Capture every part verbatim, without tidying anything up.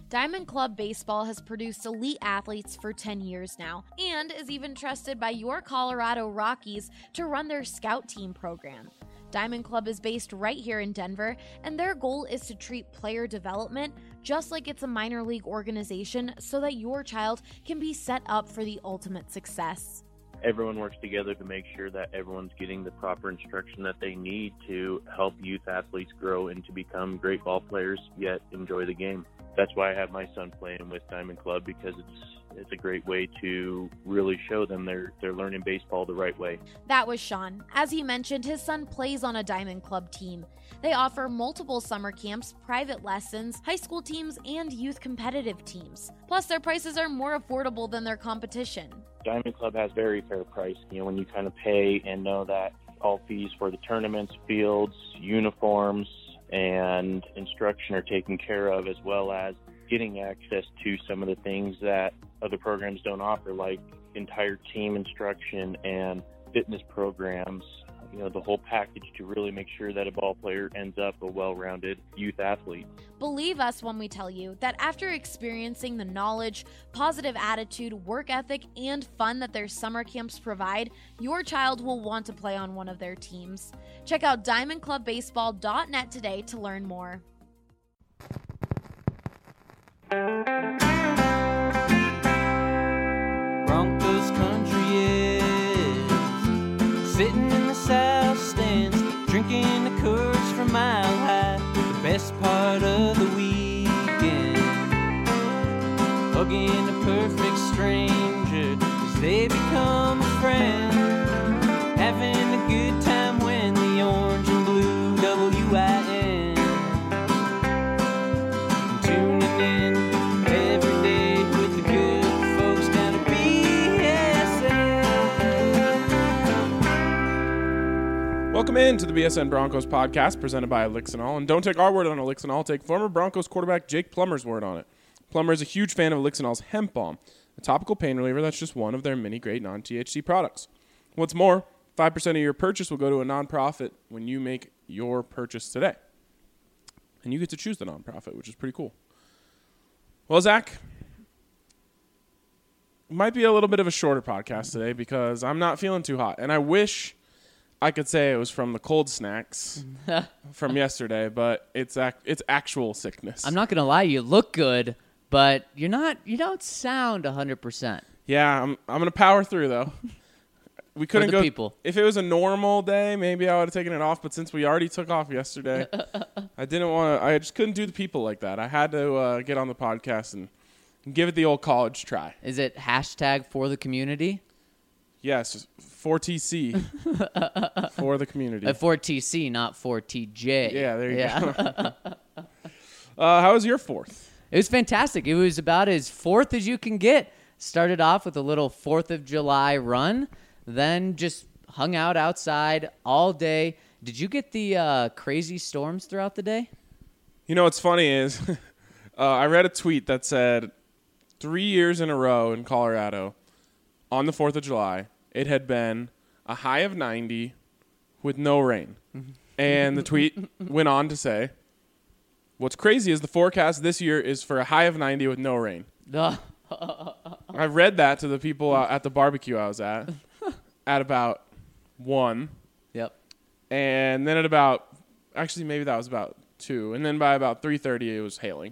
Diamond Club Baseball has produced elite athletes for ten years now and is even trusted by your Colorado Rockies to run their scout team program. Diamond Club is based right here in Denver, and their goal is to treat player development just like it's a minor league organization so that your child can be set up for the ultimate success. Everyone works together to make sure that everyone's getting the proper instruction that they need to help youth athletes grow and to become great ball players, yet enjoy the game. That's why I have my son playing with Diamond Club, because it's it's a great way to really show them they're they're learning baseball the right way. That was Sean. As he mentioned, his son plays on a Diamond Club team. They offer multiple summer camps, private lessons, high school teams, and youth competitive teams. Plus, their prices are more affordable than their competition. Diamond Club has very fair price. You know, when you kind of pay and know that all fees for the tournaments, fields, uniforms, and instruction are taken care of, as well as getting access to some of the things that other programs don't offer, like entire team instruction and fitness programs, you know, the whole package to really make sure that a ball player ends up a well-rounded youth athlete. Believe us when we tell you that after experiencing the knowledge, positive attitude, work ethic, and fun that their summer camps provide, your child will want to play on one of their teams. Check out diamond club baseball dot net today to learn more. Broncos country is sitting in the south stands, drinking the Coors from Mile High. The best part of the weekend, hugging a perfect stranger as they become a friend, having a good time when the orange and blue W I N tuning in every day with the good folks down at B S N. Welcome in to the B S N Broncos podcast presented by Elixinol. And don't take our word on Elixinol, take former Broncos quarterback Jake Plummer's word on it. Plummer is a huge fan of Elixinol's hemp balm, a topical pain reliever that's just one of their many great non-T H C products. What's more, five percent of your purchase will go to a nonprofit when you make your purchase today. And you get to choose the nonprofit, which is pretty cool. Well, Zach, it might be a little bit of a shorter podcast today because I'm not feeling too hot. And I wish I could say it was from the cold snacks from yesterday, but it's ac- it's actual sickness. I'm not going to lie, you look good, but you're not. You don't sound one hundred percent. Yeah, I'm I'm going to power through, though. We couldn't For the go. people. If it was a normal day, maybe I would have taken it off. But since we already took off yesterday, I didn't want to. I just couldn't do the people like that. I had to uh, get on the podcast and, and give it the old college try. Is it hashtag for the community? Yes, for T C for the community. Uh, for T C, not for T J. Yeah, there you yeah. go. uh, how was your fourth? It was fantastic. It was about as fourth as you can get. Started off with a little fourth of July run, then just hung out outside all day. Did you get the uh, crazy storms throughout the day? You know what's funny is uh, I read a tweet that said three years in a row in Colorado on the fourth of July, it had been a high of ninety with no rain. And the tweet went on to say, what's crazy is the forecast this year is for a high of ninety with no rain. I read that to the people at the barbecue I was at at about one. Yep. And then at about, actually maybe that was about two. And then by about three thirty, it was hailing.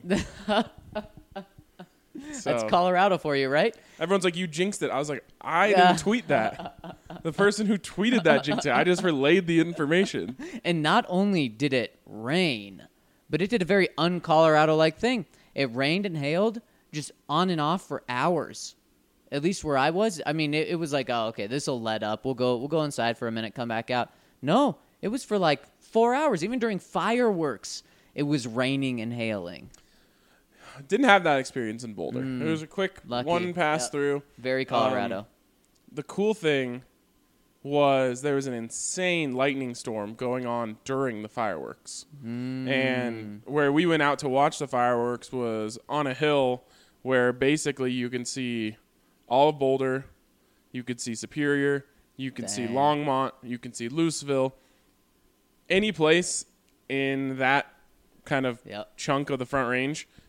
So, That's Colorado for you, right? everyone's like, you jinxed it. I was like, I Yeah. didn't tweet that. The person who tweeted that jinxed it. I just relayed the information. And not only did it rain, but it did a very un-Colorado-like thing. It rained and hailed just on and off for hours. At least where I was. I mean, it, it was like, oh, okay, this will let up. We'll go we'll go inside for a minute, come back out. No, it was for like four hours. Even during fireworks, it was raining and hailing. Didn't have that experience in Boulder. Mm, it was a quick lucky. one pass Yep. through. Very Colorado. Um, the cool thing was there was an insane lightning storm going on during the fireworks. Mm. And where we went out to watch the fireworks was on a hill where basically you can see all of Boulder, you could see Superior, you can see Dang. Longmont, you can see Louisville. Any place in that kind of Yep. chunk of the Front Range,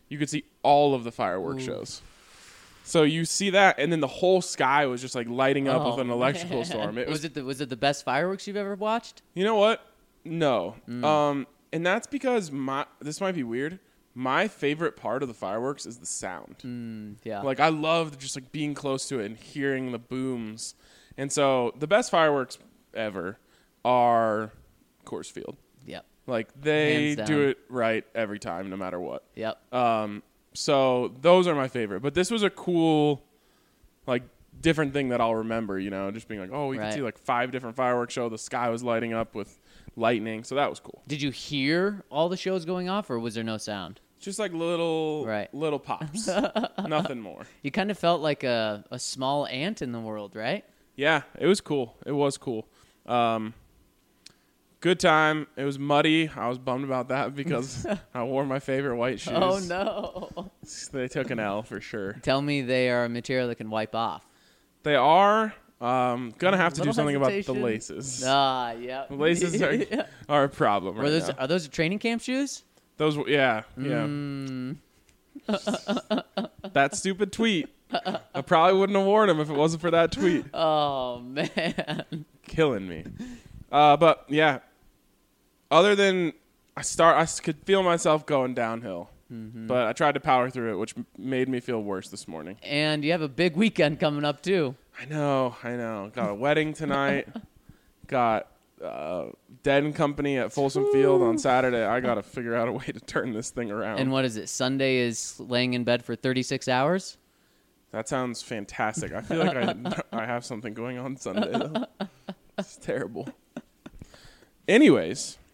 you could see all of the fireworks Ooh. shows. So you see that, and then the whole sky was just like lighting up Oh, with an electrical man. storm. It was, was it the, was it the best fireworks you've ever watched? you know what? No. Mm. Um, and that's because my this might be weird. My favorite part of the fireworks is the sound. Mm, yeah. Like I love just like being close to it and hearing the booms. And so the best fireworks ever are Coors Field. Yep. Like they Hands down. do it right every time, no matter what. Yep. Um, so those are my favorite. But this was a cool, like, different thing that I'll remember, you know, just being like, oh, we Right. could see like five different fireworks show. The sky was lighting up with lightning. So that was cool. Did you hear all the shows going off, or was there no sound? Just like little, Right. little pops. Nothing more. You kind of felt like a, a small ant in the world, right? Yeah, it was cool. It was cool. Um, good time. It was muddy. I was bummed about that because I wore my favorite white shoes. Oh, no. They took an L for sure. Tell me they are a material that can wipe off. They are um, gonna have to do Little something about the hesitation. laces. Ah, yeah. The laces are, are a problem Were right those, now. are those training camp shoes? Those, were- yeah, yeah. Mm, That stupid tweet. I probably wouldn't have worn them if it wasn't for that tweet. oh, man. Killing me. Uh, but yeah, other than I start, I s- could feel myself going downhill. Mm-hmm. But I tried to power through it, which m- made me feel worse this morning. And you have a big weekend coming up, too. I know, I know. Got a wedding tonight. Got uh, Dead and Company at Folsom Field on Saturday. I got to figure out a way to turn this thing around. And what is it? Sunday is laying in bed for thirty-six hours? That sounds fantastic. I feel like I, I have something going on Sunday, though. It's terrible. Anyways,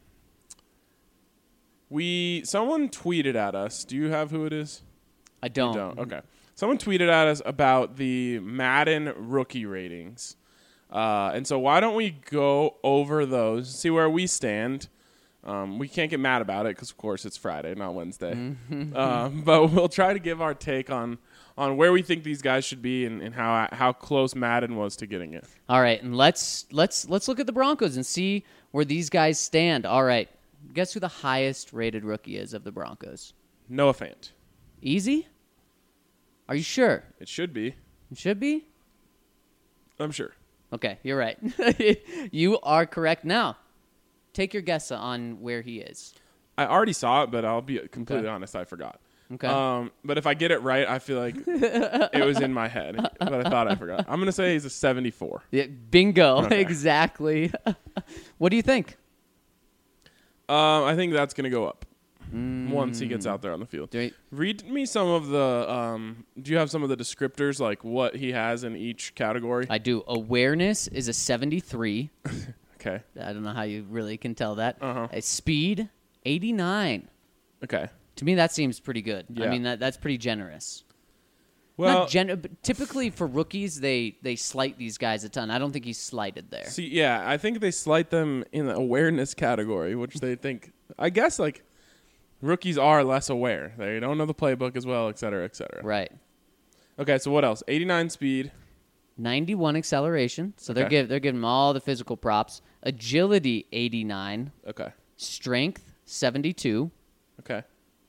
we someone tweeted at us. Do you have who it is? I don't. You don't. Okay. Someone tweeted at us about the Madden rookie ratings. Uh, and so why don't we go over those, see where we stand. Um, we can't get mad about it because, of course, it's Friday, not Wednesday. um, but we'll try to give our take on, on where we think these guys should be and, and how how close Madden was to getting it. All right, and let's let's let's look at the Broncos and see where these guys stand. All right, guess who the highest rated rookie is of the Broncos? Noah Fant. Easy? Are you sure? It should be. It should be? I'm sure. Okay, you're right. You are correct. Now, take your guess on where he is. I already saw it, but I'll be completely Okay. honest, I forgot. Okay. Um, but if I get it right, I feel like it was in my head, but I thought I forgot. I'm going to say he's a seventy-four. Yeah, bingo. Okay. Exactly. What do you think? Um, I think that's going to go up once he gets out there on the field. Do we- Read me some of the. Um, do you have some of the descriptors, like what he has in each category? I do. Awareness is a seventy-three. Okay. I don't know how you really can tell that. Uh-huh. Uh, speed, eighty-nine. Okay. To me, that seems pretty good. I Yeah. mean, that that's pretty generous. Well, Not gen- but typically for rookies, they they slight these guys a ton. I don't think he's slighted there. see, yeah, I think they slight them in the awareness category, which they think. I guess like rookies are less aware. They don't know the playbook as well, et cetera, et cetera. Right. Okay, so what else? eighty-nine speed. ninety-one acceleration. So they're Okay. give, they're giving him all the physical props. Agility, eighty-nine. Okay. Strength, seventy-two. Okay.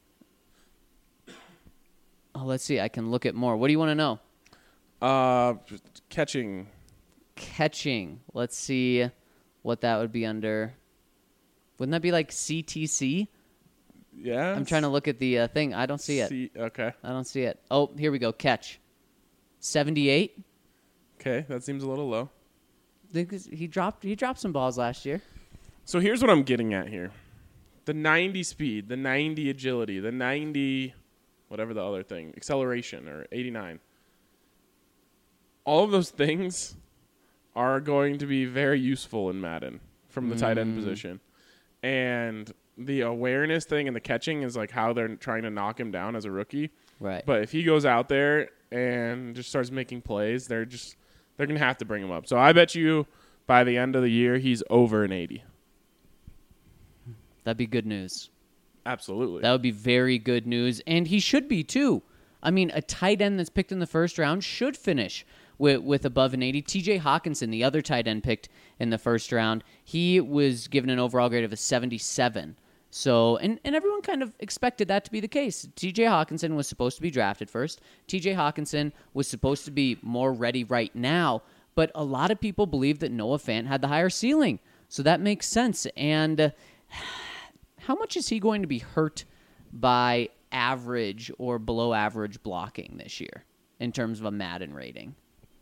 Oh, let's see. I can look at more. What do you want to know? Uh, just catching. Catching. Let's see what that would be under. Wouldn't that be like C T C? Yeah. I'm trying to look at the uh, thing. I don't see it. See, okay. I don't see it. Oh, here we go. Catch. seventy-eight. Okay, that seems a little low. Because He dropped he dropped some balls last year. So here's what I'm getting at here. The ninety speed, the ninety agility, the ninety whatever the other thing, acceleration or eighty-nine. All of those things are going to be very useful in Madden from the tight end position. And the awareness thing and the catching is like how they're trying to knock him down as a rookie. Right. But if he goes out there and just starts making plays, they're just they're going to have to bring him up. So I bet you by the end of the year he's over an eighty. That'd be good news. Absolutely. That would be very good news. And he should be, too. I mean, a tight end that's picked in the first round should finish with, with above an eighty. T J Hawkinson, the other tight end picked in the first round, he was given an overall grade of a seventy-seven. So, and, and everyone kind of expected that to be the case. T J Hawkinson was supposed to be drafted first. T J Hawkinson was supposed to be more ready right now, but a lot of people believe that Noah Fant had the higher ceiling. So that makes sense. And uh, how much is he going to be hurt by average or below average blocking this year in terms of a Madden rating?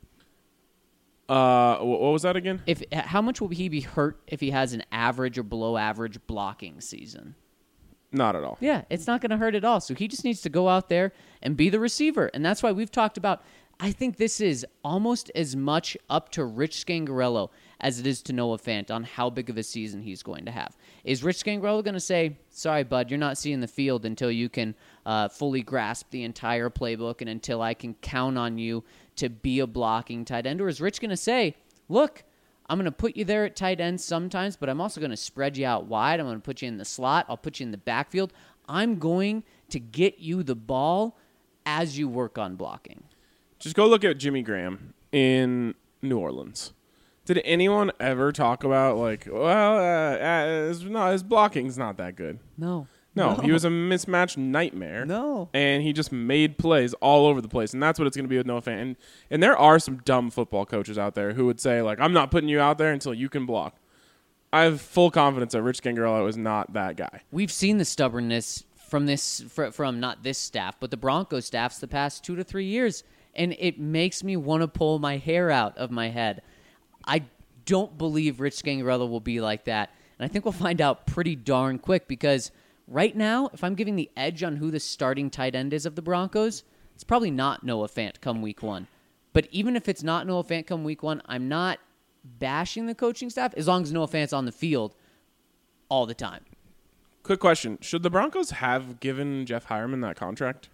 Uh, wh- what was that again? If how much will he be hurt if he has an average or below average blocking season? Not at all. Yeah, it's not going to hurt at all. So he just needs to go out there and be the receiver. And that's why we've talked about, I think this is almost as much up to Rich Scangarello as it is to Noah Fant on how big of a season he's going to have. Is Rich Scangarello going to say, sorry, bud, you're not seeing the field until you can uh, fully grasp the entire playbook and until I can count on you to be a blocking tight end? Or is Rich going to say, look, I'm going to put you there at tight end sometimes, but I'm also going to spread you out wide. I'm going to put you in the slot. I'll put you in the backfield. I'm going to get you the ball as you work on blocking. Just go look at Jimmy Graham in New Orleans. Did anyone ever talk about, like, well, uh, uh, his, no, his blocking's not that good? No. No, No. he was a mismatched nightmare. No. And he just made plays all over the place. And that's what it's going to be with Noah Fant. And, and there are some dumb football coaches out there who would say, like, I'm not putting you out there until you can block. I have full confidence that Rich Scangarello is not that guy. We've seen the stubbornness from this, fr- from not this staff, but the Broncos staffs the past two to three years. And it makes me want to pull my hair out of my head. I don't believe Rich Scangarello will be like that. And I think we'll find out pretty darn quick because right now, if I'm giving the edge on who the starting tight end is of the Broncos, it's probably not Noah Fant come week one. But even if it's not Noah Fant come week one, I'm not bashing the coaching staff as long as Noah Fant's on the field all the time. Quick question. Should the Broncos have given Jeff Hireman that contract?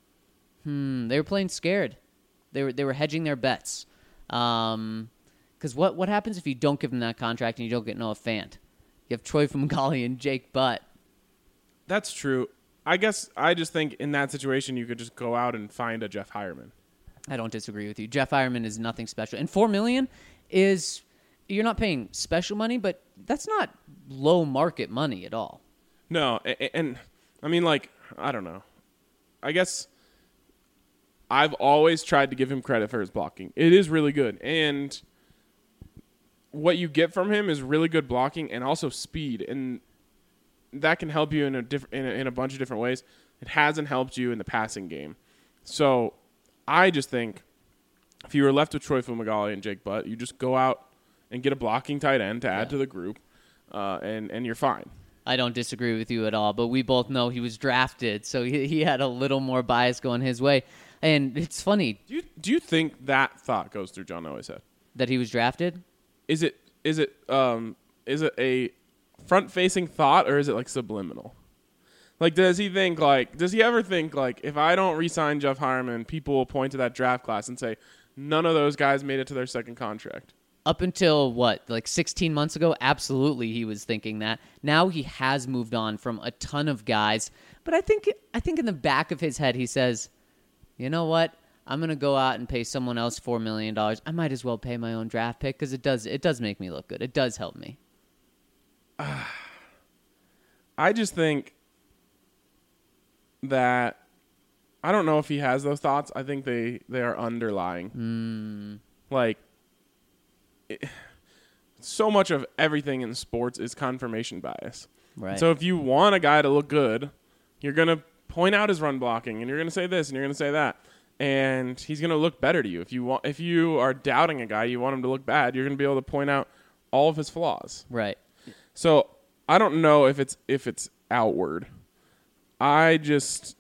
Hmm, they were playing scared. They were they were hedging their bets. Um, because what, what happens if you don't give them that contract and you don't get Noah Fant? You have Troy Fumagalli and Jake Butt. That's true. I guess I just think in that situation you could just go out and find a Jeff Hireman. I don't disagree with you. Jeff Hireman is nothing special. And four million dollars is, you're not paying special money, but that's not low market money at all. No, and, and I mean, like, I don't know. I guess I've always tried to give him credit for his blocking. It is really good. And what you get from him is really good blocking and also speed. And that can help you in a, diff- in a in a bunch of different ways. It hasn't helped you in the passing game. So I just think if you were left with Troy Fumagalli and Jake Butt, you just go out and get a blocking tight end to add Yeah. to the group, uh, and, and you're fine. I don't disagree with you at all, but we both know he was drafted, so he, he had a little more bias going his way. And it's funny Do you do you think that thought goes through John Elway's head? that he was drafted. Is it is it um is it a front facing thought or is it like subliminal? Like, does he think like does he ever think like if I don't re-sign Jeff Hireman, people will point to that draft class and say none of those guys made it to their second contract? Up until, what, like sixteen months ago, absolutely he was thinking that. Now he has moved on from a ton of guys. But I think I think in the back of his head he says, you know what? I'm going to go out and pay someone else four million dollars. I might as well pay my own draft pick because it does, it does make me look good. It does help me. I just think that I don't know if he has those thoughts. I think they, they are underlying. Mm. Like, it, so much of everything in sports is confirmation bias. Right. So if you want a guy to look good, you're going to point out his run blocking, and you're going to say this, and you're going to say that, and he's going to look better to you. If you want, if you are doubting a guy, you want him to look bad, you're going to be able to point out all of his flaws. Right. So I don't know if it's if it's outward. I just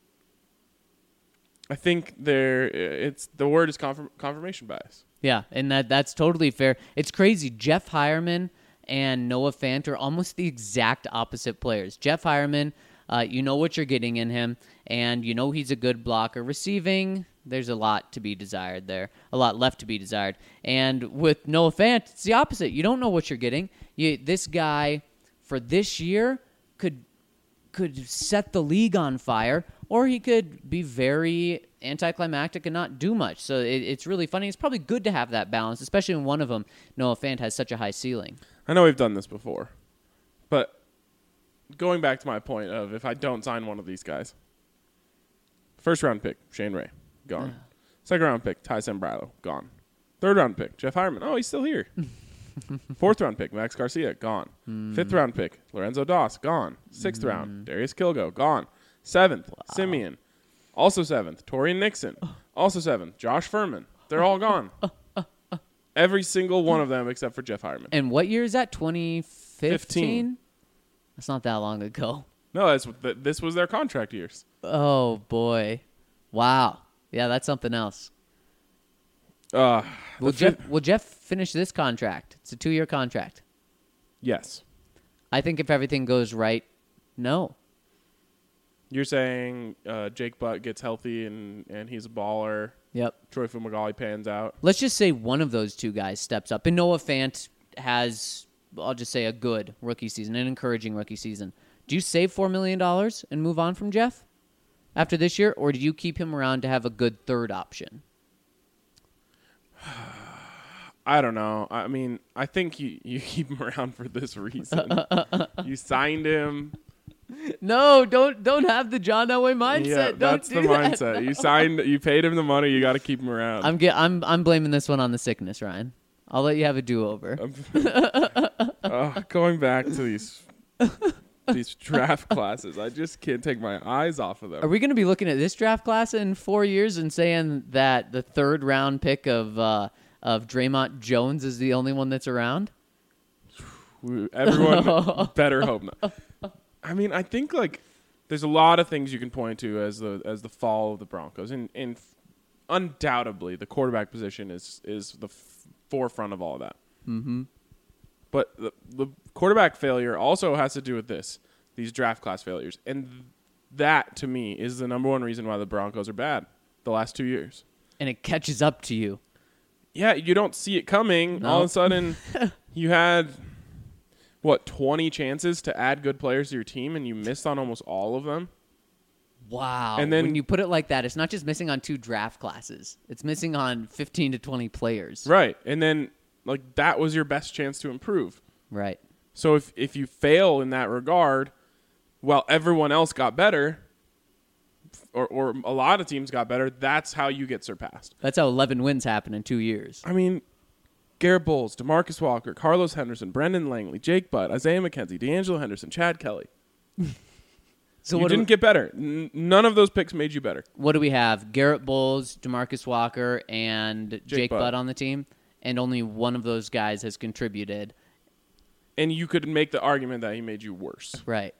I think there it's the word is confirm, confirmation bias. Yeah, and that that's totally fair. It's crazy. Jeff Hireman and Noah Fant are almost the exact opposite players. Jeff Hireman, uh, you know what you're getting in him, and you know he's a good blocker. Receiving, there's a lot to be desired there, a lot left to be desired. And with Noah Fant, it's the opposite. You don't know what you're getting. You, this guy, for this year, could could set the league on fire, or he could be very anticlimactic and not do much. So it, it's really funny. It's probably good to have that balance, especially when one of them, Noah Fant, has such a high ceiling. I know we've done this before, but going back to my point of if I don't sign one of these guys, first round pick Shane Ray gone, second round pick Ty Sembrano gone, third round pick Jeff Hireman. Oh, he's still here. Fourth round pick Max Garcia gone. Mm. Fifth round pick Lorenzo Doss gone. Sixth mm. round Darius Kilgo gone. Seventh wow. Simeon, also seventh. Torian Nixon, also seventh. Josh Furman. They're all gone. Every single one of them except for Jeff Hireman. And what year is that? twenty fifteen? That's not that long ago. No, that's this was their contract years. Oh boy, wow. Yeah, that's something else. Uh, will Jeff fi- will Jeff finish this contract? It's a two-year contract. Yes. I think if everything goes right, no. You're saying uh, Jake Butt gets healthy and, and he's a baller. Yep. Troy Fumagalli pans out. Let's just say one of those two guys steps up. And Noah Fant has, I'll just say, a good rookie season, an encouraging rookie season. Do you save four million dollars and move on from Jeff after this year, or do you keep him around to have a good third option? I don't know. I mean, I think you, you keep him around for this reason. You signed him. No, don't don't have the John Elway mindset. Yeah, don't that's do the that. mindset. No. You signed, you paid him the money. You got to keep him around. I'm get, I'm I'm blaming this one on the sickness, Ryan. I'll let you have a do-over. uh, going back to these these draft classes, I just can't take my eyes off of them. Are we going to be looking at this draft class in four years and saying that the third round pick of uh, of Draymond Jones is the only one that's around? Everyone better hope not. I mean, I think like there's a lot of things you can point to as the as the fall of the Broncos, and and undoubtedly the quarterback position is is the f- forefront of all of that. Mm-hmm. But the, the quarterback failure also has to do with this, these draft class failures. And th- that, to me, is the number one reason why the Broncos are bad the last two years. And it catches up to you. Yeah, you don't see it coming. No. All of a sudden, you had, what, twenty chances to add good players to your team, and you missed on almost all of them? Wow. And then, when you put it like that, it's not just missing on two draft classes. It's missing on fifteen to twenty players. Right. And then, like, that was your best chance to improve. Right. So if, if you fail in that regard, while everyone else got better, or, or a lot of teams got better, that's how you get surpassed. That's how eleven wins happen in two years. I mean, Garrett Bowles, DeMarcus Walker, Carlos Henderson, Brendan Langley, Jake Butt, Isaiah McKenzie, D'Angelo Henderson, Chad Kelly. So you didn't we, get better. N- none of those picks made you better. What do we have? Garrett Bowles, DeMarcus Walker, and Jake, Jake Butt. Butt on the team, and only one of those guys has contributed. And you could make the argument that he made you worse. Right.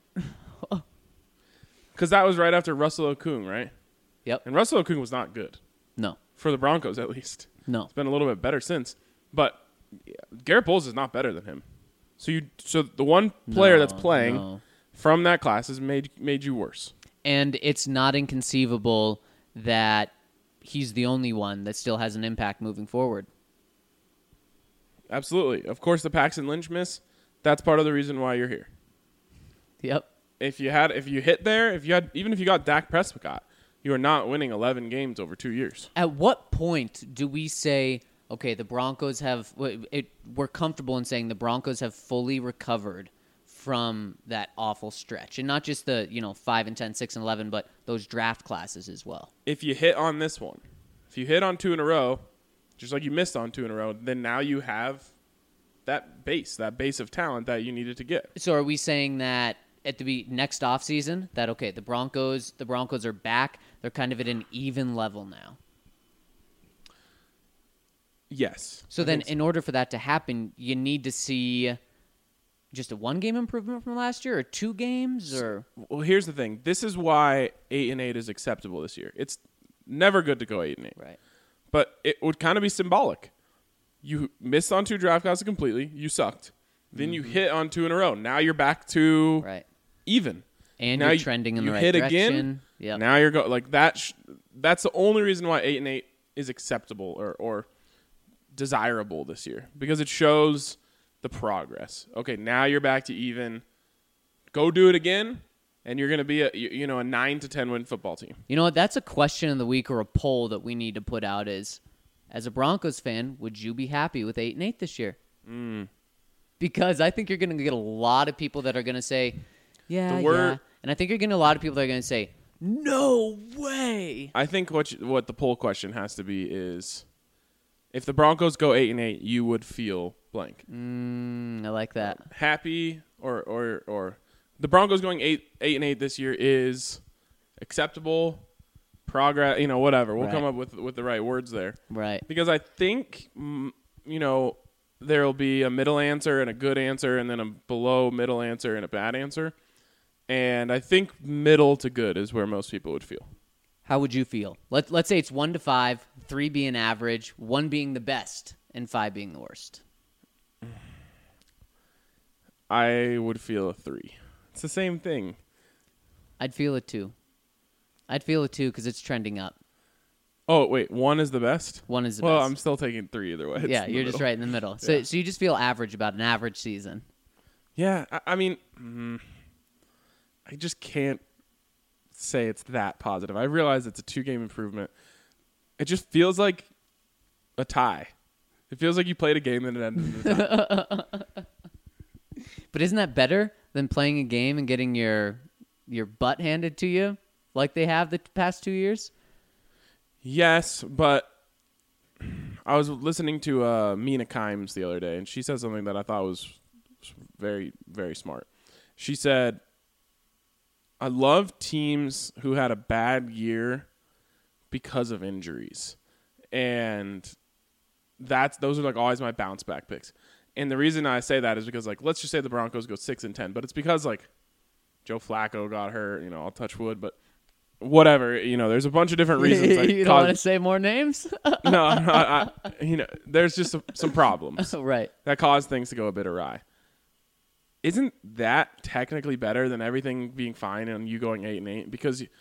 Because that was right after Russell Okung, right? Yep. And Russell Okung was not good. No. For the Broncos, at least. No. It's been a little bit better since. But yeah, Garrett Bowles is not better than him. So you, so the one player no, that's playing no. from that class has made made you worse. And it's not inconceivable that he's the only one that still has an impact moving forward. Absolutely. Of course, the Paxton Lynch miss, that's part of the reason why you're here. Yep. If you had, if you hit there, if you had, even if you got Dak Prescott, you are not winning eleven games over two years. At what point do we say, okay, the Broncos have, it, we're comfortable in saying the Broncos have fully recovered from that awful stretch, and not just the, you know, five and ten, six and eleven, but those draft classes as well? If you hit on this one, if you hit on two in a row, just like you missed on two in a row, then now you have that base, that base of talent that you needed to get. So are we saying that at the next offseason that, okay, the Broncos, the Broncos are back, they're kind of at an even level now? Yes. So I then so. in order for that to happen, you need to see just a one-game improvement from last year, or two games, or? Well, here's the thing. This is why eight and eight is acceptable this year. It's never good to go eight and eight. Right. But it would kind of be symbolic. You missed on two draft classes completely. You sucked. Then mm-hmm. you hit on two in a row. Now you're back to right. even. And now you're you, trending in you the right hit direction. Again. Yep. Now you're going like that. Sh- that's the only reason why eight and eight is acceptable or or desirable this year, because it shows the progress. Okay, now you're back to even. Go do it again, and you're going to be a you know a nine to ten win football team. You know what? That's a question of the week, or a poll that we need to put out. Is, as a Broncos fan, would you be happy with eight and eight this year? Mm. Because I think you're going to get a lot of people that are going to say, Yeah, The word- yeah. And I think you're getting a lot of people that are going to say, no way. I think what you, what the poll question has to be is, if the Broncos go eight and eight, you would feel blank. Mm, I like that. Happy or or or the Broncos going eight eight and eight this year is acceptable, progress. You know, whatever. We'll Right. come up with with the right words there. Right. Because I think, mm, you know, there will be a middle answer and a good answer, and then a below middle answer and a bad answer. And I think middle to good is where most people would feel. How would you feel? Let, let's say it's one to five, three being average, one being the best, and five being the worst. I would feel a three. It's the same thing. I'd feel it two. I'd feel it two because it's trending up. Oh, wait, one is the best? One is the well, best. I'm still taking three either way. It's yeah, in the you're just middle. right in the middle. So, Yeah. so you just feel average about an average season. Yeah, I, I mean, mm, I just can't say it's that positive. I realize it's a two-game improvement. It just feels like a tie. It feels like you played a game and it ended in a tie. But isn't that better than playing a game and getting your your butt handed to you like they have the past two years? Yes, but I was listening to uh, Mina Kimes the other day, and she said something that I thought was very, very smart. She said, I love teams who had a bad year because of injuries. And that's those are like always my bounce back picks. And the reason I say that is because, like, let's just say the Broncos go six and ten, but it's because, like, Joe Flacco got hurt. You know, I'll touch wood, but whatever. You know, there's a bunch of different reasons. That you don't cause, want to say more names? no, I'm not, I, you know, there's just some, some problems Right. that cause things to go a bit awry. Isn't that technically better than everything being fine and you going eight and eight? Because you,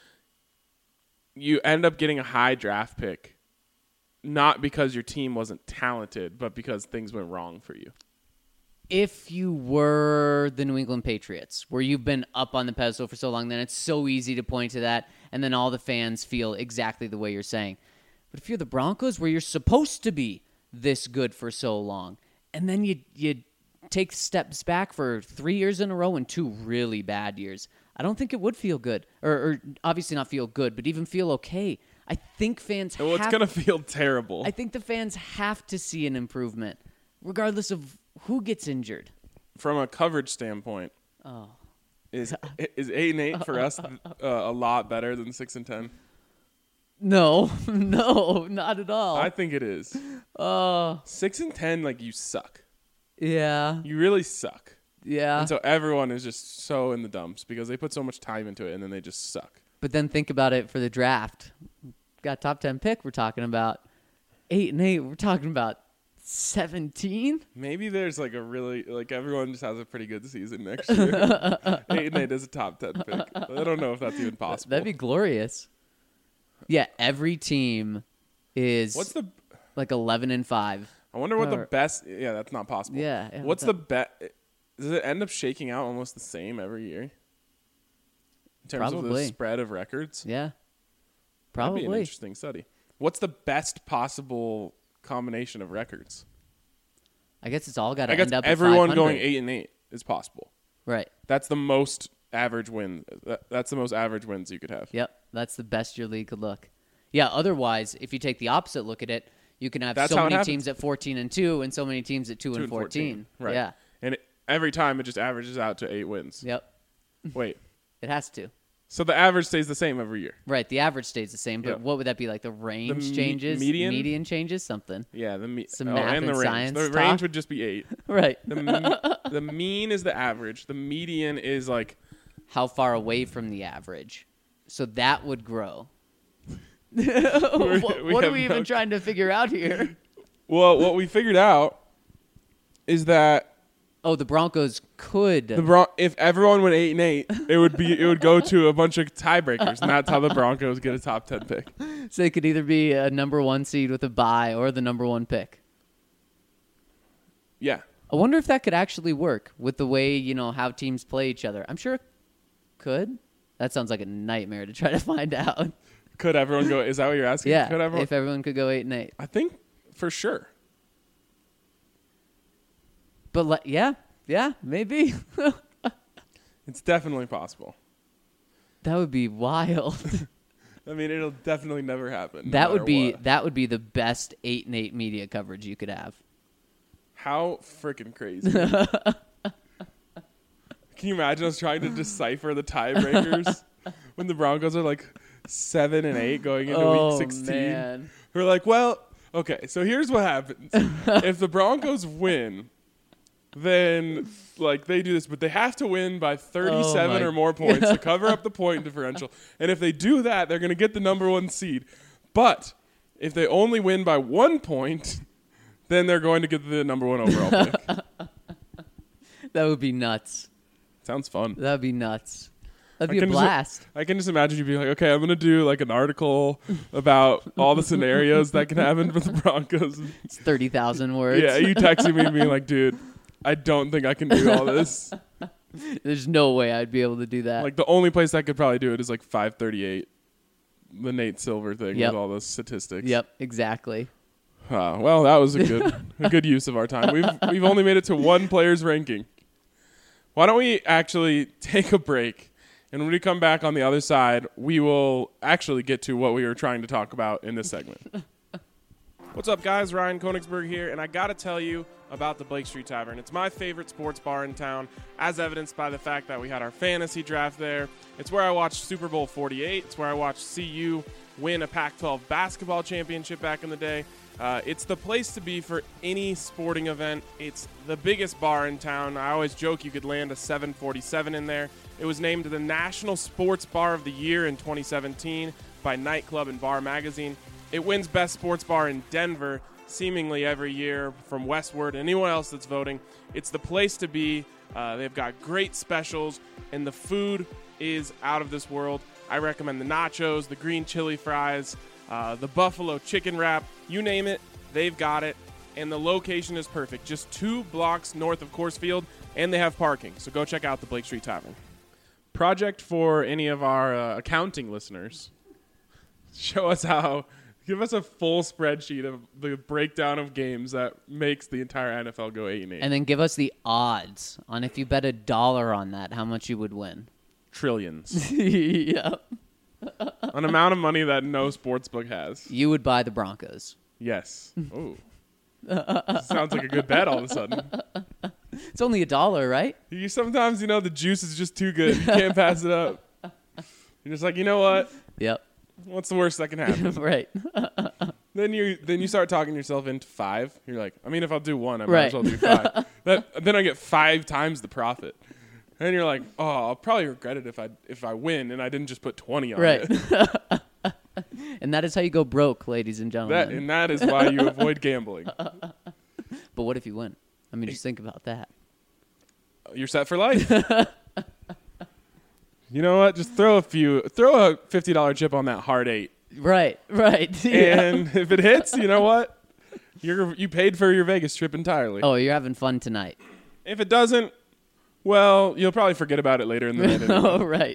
you end up getting a high draft pick, not because your team wasn't talented, but because things went wrong for you. If you were the New England Patriots, where you've been up on the pedestal for so long, then it's so easy to point to that, and then all the fans feel exactly the way you're saying. But if you're the Broncos, where you're supposed to be this good for so long, and then you you take steps back for three years in a row and two really bad years, I don't think it would feel good. Or, or obviously not feel good, but even feel okay. I think fans Well, have... it's going to feel terrible. I think the fans have to see an improvement, regardless of who gets injured. From a coverage standpoint, Oh. is is eight and eight for us uh, a lot better than six and ten? No, no, not at all. I think it is. Oh, Six and ten, like, you suck. yeah, You really suck. yeah. And so everyone is just so in the dumps because they put so much time into it and then they just suck. But then think about it for the draft. Got top ten pick. We're talking about eight and eight. We're talking about seventeen. Maybe there's like a really, like, everyone just has a pretty good season next year. eight and eight is a top ten pick. I don't know if that's even possible. That'd be glorious. Yeah, every team is What's the, like eleven and five. I wonder what the Or- best, yeah, that's not possible. Yeah, yeah, What's what's the bet? Does it end up shaking out almost the same every year? In terms of Probably. the spread of records? Yeah, That'd be probably. an interesting study. What's the best possible combination of records? I guess it's all got to I guess end up. everyone at going five hundred. eight and eight is possible. Right. That's the most average win. that- That's the most average wins you could have. Yep, that's the best your league could look. Yeah, otherwise, if you take the opposite look at it, you can have That's so how it many happens. teams at fourteen and two and so many teams at two, Two and fourteen. Right. Yeah. And it, every time it just averages out to eight wins. Yep. Wait. It has to. So the average stays the same every year. Right, the average stays the same, but Yeah. what would that be like? The range me- changes? median? Median changes? Something. Yeah. The me- Some oh, math and the and range. science The talk. range would just be eight. Right. The me- the mean is the average. The median is like How far away from the average? So that would grow. we what what are have we even no- trying to figure out here? well, what we figured out is that Oh, the Broncos could. the Bron- if everyone went eight and eight, it would be it would go to a bunch of tiebreakers, and that's how the Broncos get a top ten pick. so it could either be a number one seed with a bye or the number one pick. Yeah. I wonder if that could actually work with the way, you know, how teams play each other. I'm sure it could. That sounds like a nightmare to try to find out. Could everyone go? Is that what you're asking? Yeah, Could everyone? if everyone could go eight and eight. I think for sure. But le- yeah, yeah, maybe. It's definitely possible. That would be wild. I mean, it'll definitely never happen. no that would matter be what. that would be the best eight and eight media coverage you could have. How freaking crazy. Can you imagine us trying to decipher the tiebreakers when the Broncos are like seven and eight going into oh, week sixteen? Man. We're like, well, okay, so here's what happens. If the Broncos win, then like they do this, but they have to win by thirty-seven Oh, my- or more points to cover up the point differential. And if they do that, they're going to get the number one seed. But if they only win by one point, then they're going to get the number one overall pick. That would be nuts. Sounds fun. That would be nuts. That'd I be a can just- blast. I can just imagine you being like, okay, I'm going to do like an article about all the scenarios that can happen for the Broncos. It's thirty thousand words. Yeah, you texting me and being like, dude, I don't think I can do all this. There's no way I'd be able to do that. Like the only place I could probably do it is like five thirty-eight, the Nate Silver thing Yep. with all those statistics. Yep, exactly. Ah, well, that was a good a good use of our time. We've we've only made it to one player's ranking. Why don't we actually take a break, and when we come back on the other side, we will actually get to what we were trying to talk about in this segment. What's up, guys? Ryan Konigsberg here, and I got to tell you about the Blake Street Tavern. It's my favorite sports bar in town, as evidenced by the fact that we had our fantasy draft there. It's where I watched Super Bowl forty-eight. It's where I watched C U win a Pac twelve basketball championship back in the day. Uh, it's the place to be for any sporting event. It's the biggest bar in town. I always joke you could land a seven forty-seven in there. It was named the National Sports Bar of the Year in twenty seventeen by Nightclub and Bar Magazine. It wins Best Sports Bar in Denver seemingly every year from Westward. Anyone else that's voting, it's the place to be. Uh, they've got great specials, and the food is out of this world. I recommend the nachos, the green chili fries, uh, the buffalo chicken wrap. You name it, they've got it. And the location is perfect. Just two blocks north of Coors Field, and they have parking. So go check out the Blake Street Tavern. Project for any of our uh, accounting listeners. Show us how... Give us a full spreadsheet of the breakdown of games that makes the entire N F L go eight and eight. And then give us the odds on if you bet a dollar on that, how much you would win. Trillions. Yep. An amount of money that no sportsbook has. You would buy the Broncos. Yes. Ooh. Sounds like a good bet all of a sudden. It's only a dollar, right? You sometimes, you know, the juice is just too good. You can't pass it up. You're just like, you know what? Yep. What's the worst that can happen? Right. Then you then you start talking yourself into five. You're like, I mean, if I'll do one, I might Right. as well do five. that, then I get five times the profit. And you're like, oh, I'll probably regret it if I if I win and I didn't just put twenty on Right. it. And that is how you go broke, ladies and That, gentlemen. and that is why you avoid gambling. But what if you win? I mean, just think about that. You're set for life. You know what? Just throw a few, throw a fifty dollar chip on that hard eight, Right, right. Yeah. and if it hits, you know what? You're you paid for your Vegas trip entirely. Oh, you're having fun tonight. If it doesn't, well, you'll probably forget about it later in the night. Anyway. Oh, right.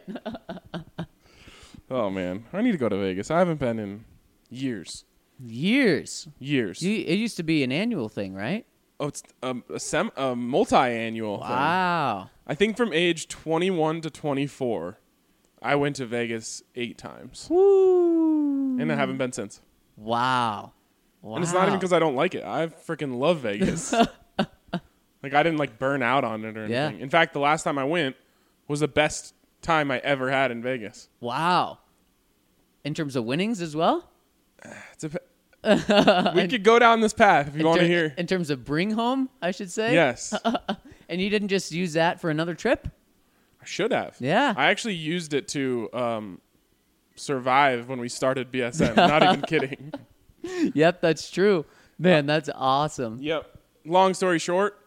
Oh man, I need to go to Vegas. I haven't been in years. Years. Years. You, it used to be an annual thing, right? Oh, it's um, a sem- a multi-annual thing. Wow. I think from age twenty-one to twenty-four, I went to Vegas eight times, Woo. and I haven't been since. Wow. Wow. And it's not even because I don't like it. I freaking love Vegas. Like, I didn't, like, burn out on it or Yeah. anything. In fact, the last time I went was the best time I ever had in Vegas. Wow. In terms of winnings as well? It's a, we could go down this path if you In want to ter- hear. In terms of bring home, I should say? Yes. And you didn't just use that for another trip? I should have. Yeah. I actually used it to um, survive when we started B S N. Not even kidding. Yep, that's true. Man, that's awesome. Yep. Long story short,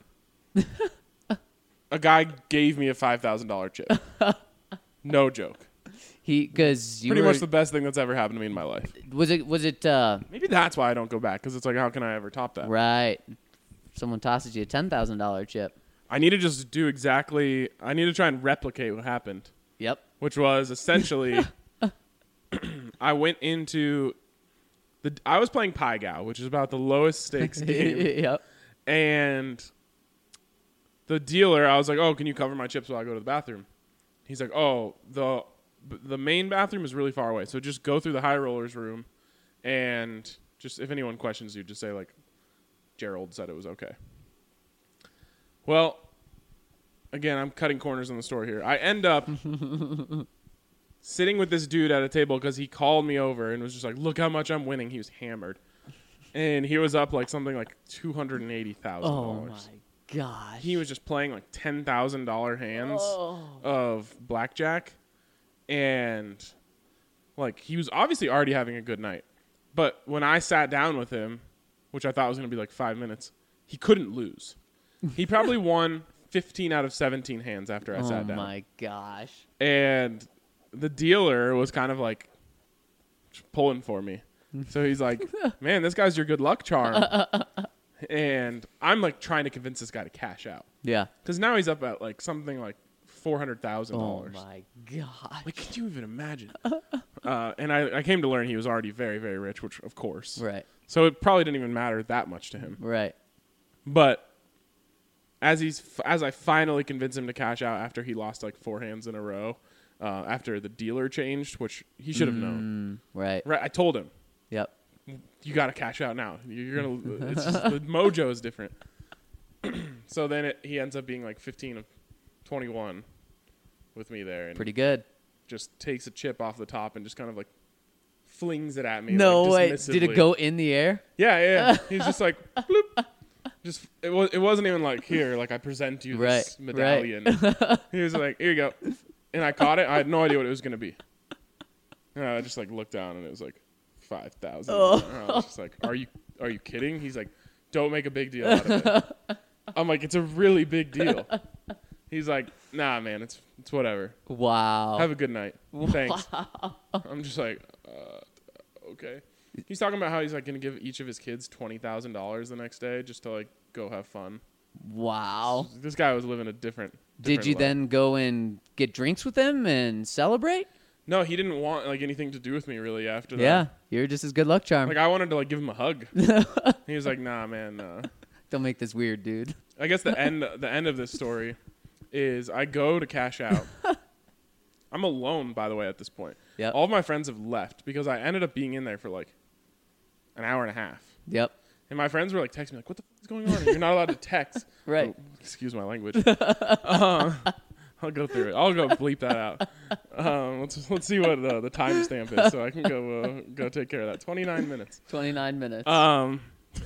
a guy gave me a five thousand dollars chip. No joke. He because you Pretty were, much the best thing that's ever happened to me in my life. was it was it uh, Maybe that's why I don't go back, because it's like, how can I ever top that? right? Someone tosses you a ten thousand dollar chip. I need to just do exactly, I need to try and replicate what happened, Yep. which was essentially, I went into, the. I was playing Pai Gow, which is about the lowest stakes game. Yep. And the dealer, I was like, oh, can you cover my chips while I go to the bathroom? he's like, oh, the the main bathroom is really far away, so just go through the high rollers room, and just if anyone questions you, just say like, Gerald said it was okay. Well, again, I'm cutting corners in the story here. I end up sitting with this dude at a table because he called me over and was just like, look how much I'm winning. He was hammered. And he was up like something like two hundred eighty thousand dollars. Oh, my gosh. He was just playing like ten thousand dollars hands Oh. of blackjack. And like he was obviously already having a good night. But when I sat down with him, which I thought was going to be like five minutes, he couldn't lose. He probably won fifteen out of seventeen hands after I oh sat down. Oh, my gosh. And the dealer was kind of like pulling for me. So he's like, man, this guy's your good luck charm. And I'm like trying to convince this guy to cash out. Yeah. Because now he's up at like something like four hundred thousand Oh, dollars. my gosh. Like, can you even imagine? uh, and I, I came to learn he was already very, very rich, which of course. Right. So it probably didn't even matter that much to him. Right. But as he's as I finally convinced him to cash out after he lost like four hands in a row, uh, after the dealer changed, which he should have Mm, known. Right. Right. I told him, Yep. you got to cash out now. You're gonna. It's just, the mojo is different. So then it, he ends up being like fifteen of twenty-one with me there, and Pretty good. just takes a chip off the top and just kind of like flings it at me. No like, way. Did dismissively. it go in the air? Yeah, yeah. yeah. He's just like, bloop. Just it was. It wasn't even like here. Like I present you Right, this right. medallion. He was like, here you go, and I caught it. I had no idea what it was gonna be. And I just like looked down and it was like five thousand. Oh. I was just like, are you are you kidding? He's like, don't make a big deal out of it. I'm like, it's a really big deal. He's like, nah, man, it's it's whatever. Wow. Have a good night. Thanks. I'm just like, uh, okay. He's talking about how he's like going to give each of his kids twenty thousand dollars the next day just to like go have fun. Wow. This guy was living a different. Did different you life. then go and get drinks with him and celebrate? No, he didn't want like anything to do with me really after that. Yeah. You're just his good luck charm. Like I wanted to like give him a hug. He was like, nah, man. Nah. Don't make this weird, dude. I guess the end the end of this story is I go to cash out. I'm alone, by the way, at this point. Yep. All of my friends have left because I ended up being in there for like an hour and a half. Yep. And my friends were like texting me like, what the f- is going on? You're not allowed to text. Right. Oh, excuse my language. uh, I'll go through it. I'll go bleep that out. Um, let's let's see what uh, the timestamp is so I can go uh, go take care of that. twenty-nine minutes. twenty-nine minutes. Um,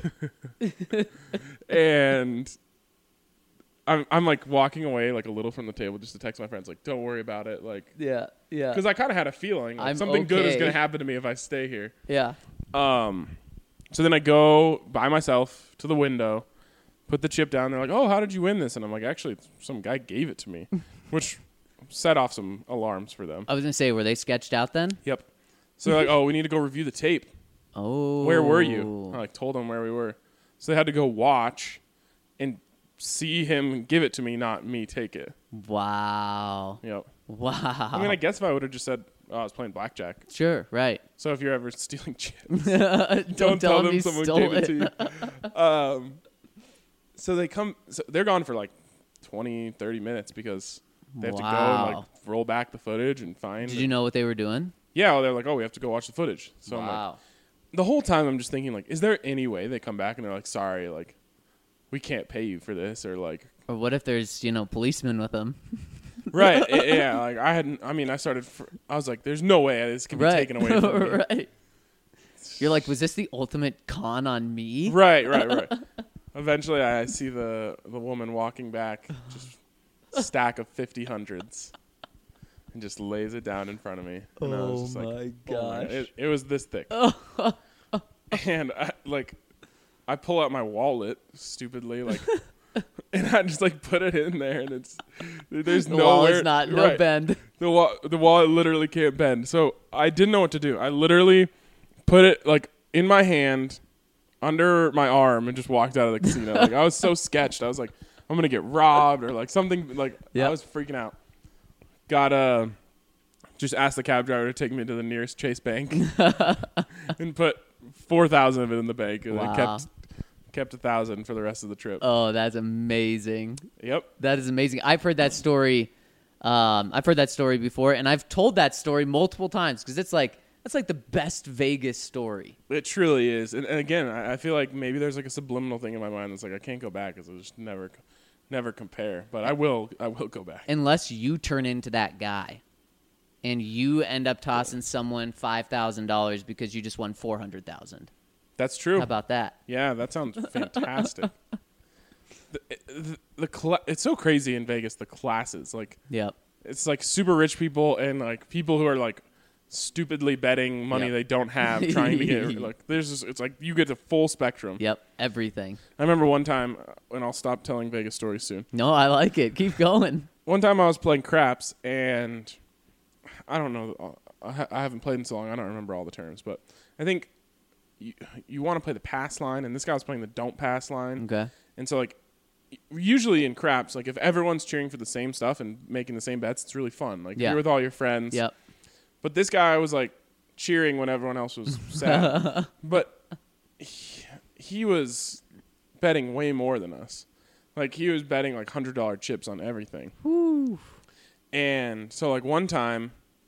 and I'm I'm like walking away like a little from the table just to text my friends like, don't worry about it, like, yeah. Yeah. because I kind of had a feeling like I'm something good is okay. gonna happen to me if I stay here. Yeah. Um, so then I go by myself to the window, put the chip down. They're like, "Oh, how did you win this?" And I'm like, "Actually, some guy gave it to me," which set off some alarms for them. I was gonna say, were they sketched out then? Yep. So they're like, "Oh, we need to go review the tape." Oh. Where were you? I like told them where we were. So they had to go watch and see him give it to me, not me take it. Wow. Yep. Wow. I mean, I guess if I would have just said, "Oh, I was playing blackjack." Sure. Right. So if you're ever stealing chips, don't, don't tell tell him them you someone stole gave it. it to you. um, so they come. So they're gone for like twenty, thirty minutes because they have to go and Wow. like roll back the footage and find. Did you know what they were doing? Yeah, well, they're like, "Oh, we have to go watch the footage." So I'm like, wow. the whole time I'm just thinking like, is there any way they come back and they're like, "Sorry, like, we can't pay you for this," or like, Or what if there's, you know, policemen with them? right? i- yeah, like I hadn't. I mean, I started. Fr- I was like, "There's no way this can be Right. taken away from me." Right. You're like, was this the ultimate con on me? Right, right, right. Eventually, I see the the woman walking back, just a stack of fifty hundreds, and just lays it down in front of me. And I was just like, my oh my gosh. God. It, it was this thick. And I, like, I pull out my wallet stupidly, like, and I just like put it in there, and it's there's The nowhere. wall is not, no right. bend. The wall, the wallet literally can't bend. So I didn't know what to do. I literally put it like in my hand, under my arm, and just walked out of the casino. Like I was so sketched. I was like, I'm gonna get robbed or like something. Like Yep. I was freaking out. Got uh, just asked the cab driver to take me to the nearest Chase Bank and put four thousand of it in the bank, and Wow. I kept kept a thousand for the rest of the trip. Oh, that's amazing. Yep. That is amazing. I've heard that story Um, I've heard that story before, and I've told that story multiple times because it's like that's like the best Vegas story. It truly is. And, and again, I, I feel like maybe there's like a subliminal thing in my mind that's like I can't go back because I just never, never compare. But I will. I will go back. Unless you turn into that guy, and you end up tossing someone five thousand dollars because you just won four hundred thousand. That's true. How about that? Yeah, that sounds fantastic. the, the, the cl- it's so crazy in Vegas. The classes, like, Yep. it's like super rich people and like people who are like stupidly betting money Yep. they don't have, trying to get like. There's just, it's like you get the full spectrum. Yep. Everything. I remember one time, uh, and I'll stop telling Vegas stories soon. No, I like it. Keep going. One time I was playing craps, and I don't know. I, ha- I haven't played in so long. I don't remember all the terms, but I think you, you want to play the pass line, and this guy was playing the don't pass line. Okay. And so, like, usually in craps, like if everyone's cheering for the same stuff and making the same bets, it's really fun. Like Yeah. you're with all your friends. Yep. But this guy was like cheering when everyone else was sad. But he, he was betting way more than us. Like he was betting like hundred dollar chips on everything. Woo. And so like one time,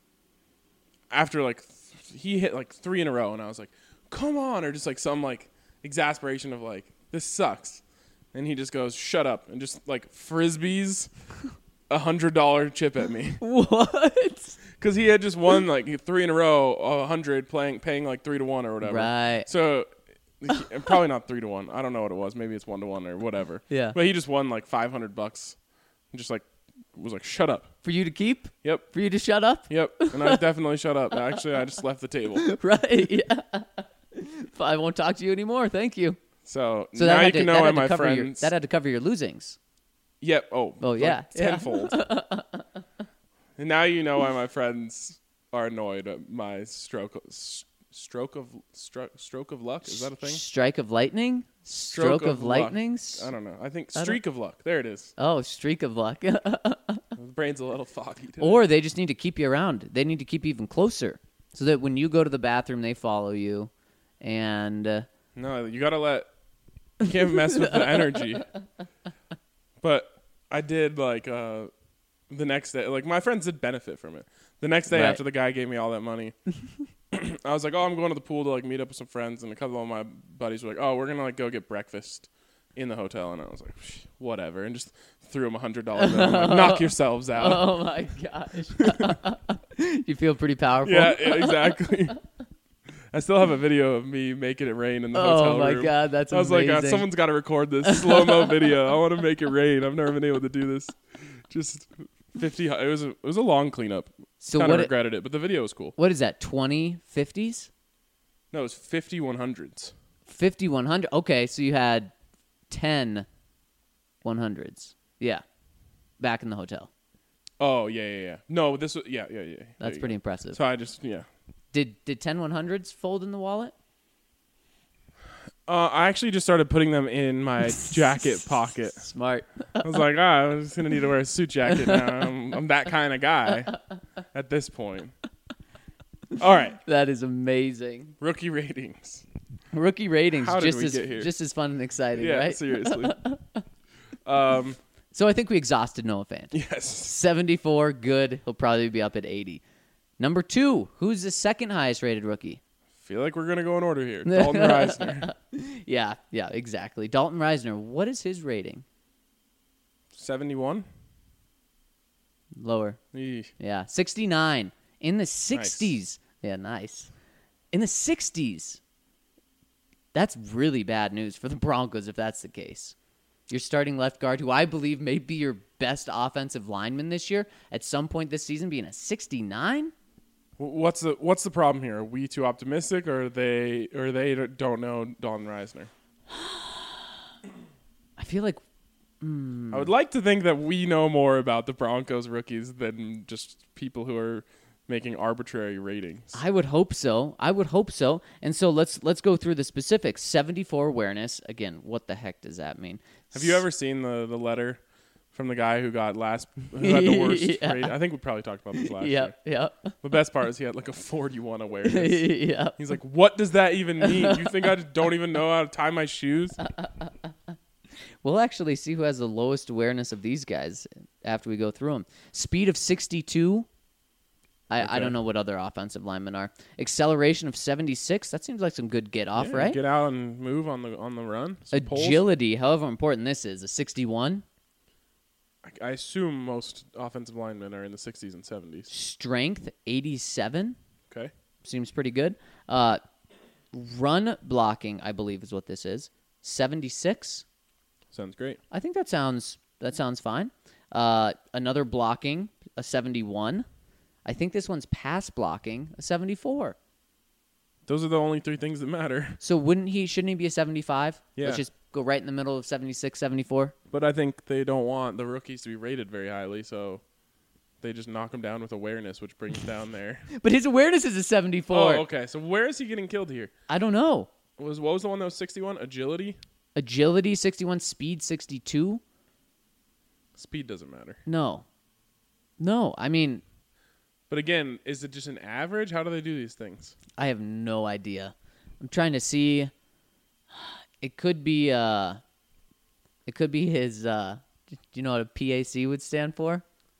after like th- he hit like three in a row, and I was like, "Come on!" or just like some like exasperation of like, "This sucks." And he just goes, "Shut up," and just like frisbees a hundred dollar chip at me What? because he had just won like three in a row, a hundred, playing paying like three to one or whatever. Right. So he- probably not three to one. I don't know what it was. Maybe it's one to one or whatever. Yeah. But he just won like five hundred bucks, and just like was like, "Shut up." For you to keep? Yep. For you to shut up? Yep. And I definitely shut up. Actually, I just left the table. Right. Yeah. I won't talk to you anymore. Thank you. So, So now that you had to, can that know why had to my cover your, friends. that had to cover your losings. Yep. Oh. Oh, like yeah. Yeah. Tenfold. And now you know why my friends are annoyed at my stroke. s- Stroke of stro- stroke of luck. Is that a thing? Strike of lightning? Stroke, of, luck. lightning? I don't know. I think I don't- streak of luck. There it is. Oh, streak of luck. The brain's a little foggy today. Or they just need to keep you around. They need to keep you even closer so that when you go to the bathroom, they follow you. And uh, No, you gotta let. You can't mess with the energy. But I did like uh, the next day. Like my friends did benefit from it. The next day Right. after the guy gave me all that money, I was like, "Oh, I'm going to the pool to like meet up with some friends." And a couple of my buddies were like, "Oh, we're gonna like go get breakfast in the hotel." And I was like, "Whatever," and just threw them a hundred dollars. Like, knock yourselves out. oh my gosh. You feel pretty powerful. Yeah, yeah, exactly. I still have a video of me making it rain in the hotel Oh my room. god, that's I was amazing. like, uh, someone's got to record this slow mo video. I want to make it rain. I've never been able to do this. Just fifty. It was a, it was a long cleanup. So Kind of what? It, regretted it, but the video was cool. what is that? Twenty fifties? No, it was fifty one hundreds. Fifty one hundred. Okay, so you had ten one hundreds. Yeah, back in the hotel. Oh yeah, yeah, yeah. No, this was yeah, yeah, yeah. There That's you pretty go. impressive. So I just yeah. Did did ten one hundreds fold in the wallet? Uh, I actually just started putting them in my jacket pocket. Smart. I was like, ah, I'm just gonna need to wear a suit jacket now. I'm, I'm that kind of guy at this point. All right, That is amazing. rookie ratings. Rookie ratings How did just we as get here? just as fun and exciting, Yeah, right? seriously. um, So I think we exhausted Noah Fant. yes. seventy-four, good. He'll probably be up at eighty. Number two, who's the second highest rated rookie? Feel like we're gonna go in order here. Dalton Reisner, Yeah, yeah, exactly. Dalton Reisner. What is his rating? seventy-one. Lower. Eesh. Yeah, sixty-nine. In the sixties. Yeah, nice. In the sixties. That's really bad news for the Broncos if that's the case. Your starting left guard, who I believe may be your best offensive lineman this year, at some point this season being a sixty-nine? W- What's the What's the problem here? Are we too optimistic, or are they or they don't know Dalton Reisner? I feel like I would like to think that we know more about the Broncos rookies than just people who are making arbitrary ratings. I would hope so. I would hope so. And so let's let's go through the specifics. seventy-four awareness. Again, what the heck does that mean? Have you ever seen the, the letter from the guy who got last who had the worst Yeah. rating? I think we probably talked about this last Yep, year. yep. The best part is he had like a forty-one awareness. Yep. He's like, what does that even mean? You think I just don't even know how to tie my shoes? We'll actually see who has the lowest awareness of these guys after we go through them. Speed of sixty-two. I, Okay. I don't know what other offensive linemen are. Acceleration of seventy-six. That seems like some good get off, Yeah, right? Get out and move on the on the run. Some poles. Agility, however important this is, a sixty-one. I, I assume most offensive linemen are in the sixties and seventies. Strength, eighty-seven. Okay. Seems pretty good. Uh, run blocking, I believe, is what this is. seventy-six. Sounds great. I think that sounds that sounds fine. Uh, another blocking, a seventy-one. I think this one's pass blocking, a seventy-four. Those are the only three things that matter. So wouldn't he? Shouldn't he be a seventy-five? Yeah. Let's just go right in the middle of seventy-six, seventy-four. But I think they don't want the rookies to be rated very highly, so they just knock them down with awareness, which brings down their. But his awareness is a seventy-four. Oh, okay. So where is he getting killed here? I don't know. Was what was the one that was sixty-one? Agility. Agility sixty-one, speed sixty-two. Speed doesn't matter. No, no. I mean, But again, is it just an average? How do they do these things? I have no idea. I'm trying to see. It could be. Uh, it could be his. Uh, do you know what a P A C would stand for?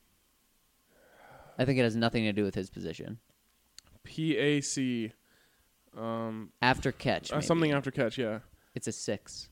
I think it has nothing to do with his position. P A C. Um, After catch, uh, maybe. something after catch. Yeah. It's a six.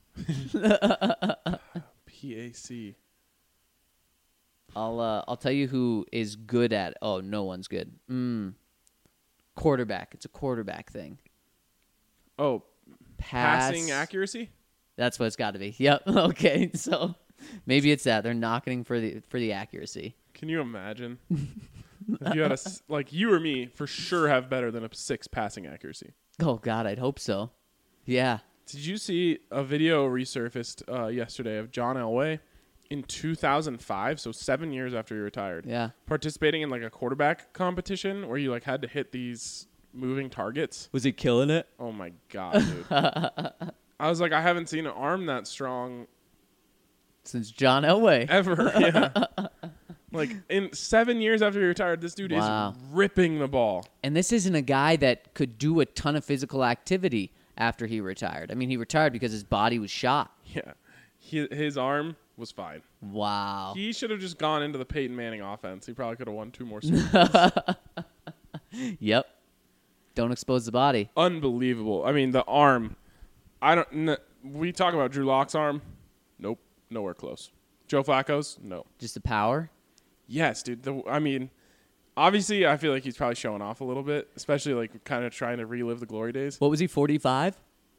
P A C. I'll uh, I'll tell you who is good at. Oh, no one's good. Mm. Quarterback. It's a quarterback thing. Oh, Pass. passing accuracy. That's what it's got to be. Yep. Okay. So maybe it's that they're knocking for the for the accuracy. Can you imagine? If you had a s- like you or me for sure have better than a six passing accuracy. Oh God, I'd hope so. Yeah. Did you see a video resurfaced uh, yesterday of John Elway in two thousand five, so seven years after he retired, Yeah. participating in like a quarterback competition where you like had to hit these moving targets? Was he killing it? Oh my God, dude. I was like, I haven't seen an arm that strong Since John Elway. ever. Yeah. Like in seven years after he retired, this dude Wow. is ripping the ball. And this isn't a guy that could do a ton of physical activity after he retired. I mean, he retired because his body was shot. Yeah. He, his arm was fine. Wow. He should have just gone into the Peyton Manning offense. He probably could have won two more Super Bowls. Yep. Don't expose the body. Unbelievable. I mean, the arm. I don't. N- we talk about Drew Lock's arm. Nope, nowhere close. Joe Flacco's. No. Just the power. Yes, dude. The, I mean, obviously, I feel like he's probably showing off a little bit, especially like kind of trying to relive the glory days. What was he, forty-five?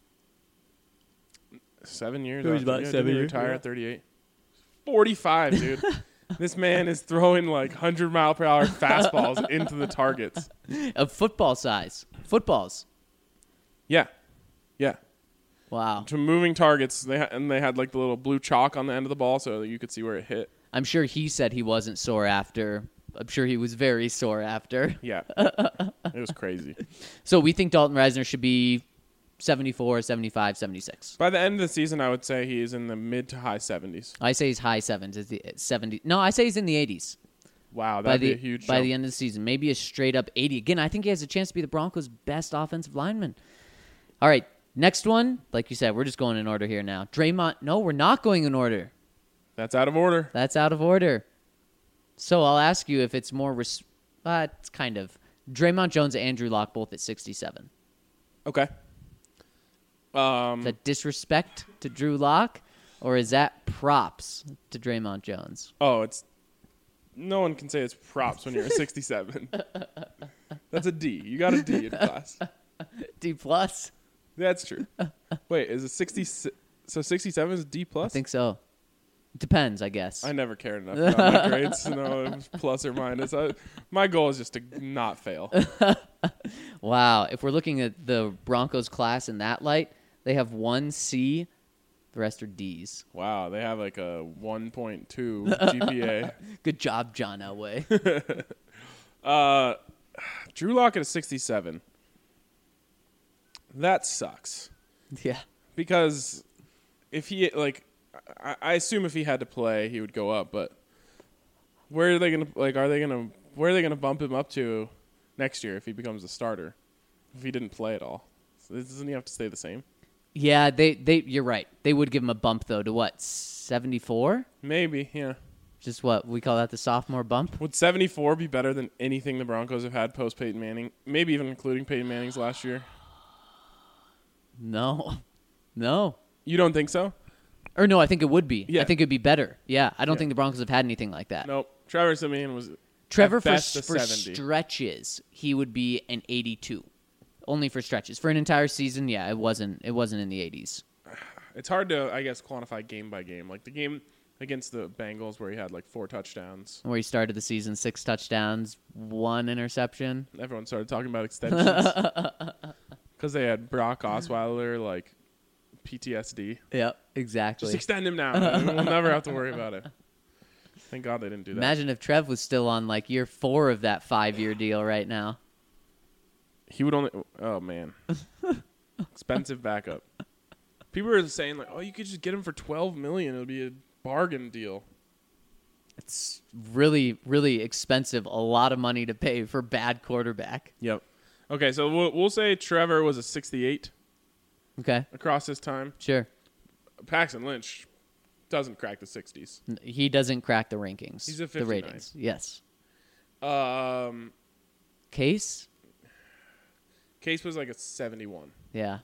Seven years. He was after- about yeah, seven didn't he years, retire yeah. at thirty-eight. Forty-five, dude. This man is throwing like hundred mile per hour fastballs into the targets. Of football size. Footballs. Yeah, yeah. Wow. To moving targets, they ha- and they had like the little blue chalk on the end of the ball so that you could see where it hit. I'm sure he said he wasn't sore after. I'm sure he was very sore after. Yeah, it was crazy. So we think Dalton Reisner should be seventy-four, seventy-five, seventy-six. By the end of the season, I would say he is in the mid to high seventies. I say he's high sevens. Is the seventy? No, I say he's in the eighties. Wow, By that'd the be a huge by jump. the end of the season, maybe a straight up eighty. Again, I think he has a chance to be the Broncos' best offensive lineman. All right, next one. Like you said, we're just going in order here now. Draymond. No, we're not going in order. That's out of order. That's out of order. So I'll ask you if it's more. Res- uh, it's kind of Draymond Jones and Andrew Luck both at sixty-seven. Okay. Um, Is that disrespect to Drew Lock, or is that props to Draymond Jones? oh, it's no one can say it's props when you're a sixty-seven. That's a D. You got a D in class. D plus. That's true. Wait, is it sixty? So sixty-seven is D plus? I think so. Depends, I guess. I never cared enough about my grades to know it was plus or minus. I, my goal is just to not fail. Wow. If we're looking at the Broncos class in that light, they have one C. The rest are D's. Wow, they have like a one point two G P A. Good job, John Elway. uh, Drew Lock at a sixty-seven. That sucks. Yeah. Because if he, like, I, I assume if he had to play, he would go up, but where are they going to, like, are they going to, where are they going to bump him up to next year if he becomes a starter? If he didn't play at all? So doesn't he have to stay the same? Yeah, they, they you're right. They would give him a bump though to what, seventy-four? Maybe, yeah. Just what we call that the sophomore bump. Would seventy-four be better than anything the Broncos have had post Peyton Manning? Maybe even including Peyton Manning's last year. No, no, You don't think so? or no. I think it would be. Yeah. I think it'd be better. Yeah, I don't Yeah. think the Broncos have had anything like that. Nope. Trevor Siemian was Trevor at for best a for seventy. stretches he would be an eighty-two, only for stretches. For an entire season, yeah, it wasn't. It wasn't in the eighties. It's hard to, I guess, quantify game by game. Like the game against the Bengals where he had like four touchdowns. Where he started the season six touchdowns, one interception. Everyone started talking about extensions because they had Brock Osweiler, like P T S D. Yep, exactly. Just extend him now. and we'll never have to worry about it. Thank God they didn't do that. Imagine if Trev was still on like year four of that five-year deal right now. He would only. Oh man, expensive backup. People are saying like, oh, you could just get him for twelve million. It'll be a bargain deal. It's really, really expensive. A lot of money to pay for bad quarterback. Yep. Okay, so we'll we'll say Trevor was a sixty-eight Okay, across his time. sure. Paxton Lynch doesn't crack the sixties. N- He doesn't crack the rankings. He's a the fifty-nine. ratings. Yes. Um, Case? Case was like a seventy-one. Yeah.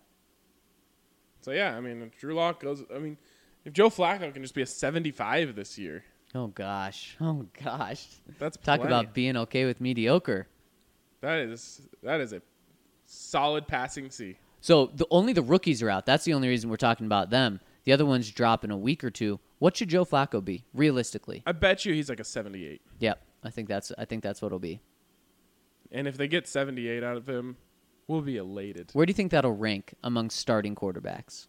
So yeah, I mean, if Drew Lock goes, I mean, if Joe Flacco can just be a seventy-five this year, Oh gosh. Oh gosh. that's Talk plenty. about being okay with mediocre. that is that is a solid passing C. So the only the rookies are out. That's the only reason we're talking about them. The other ones drop in a week or two. What should Joe Flacco be realistically? I bet you he's like a seventy-eight. Yep. I think that's I think that's what it'll be. And if they get seventy-eight out of him, we'll be elated. Where do you think that'll rank among starting quarterbacks?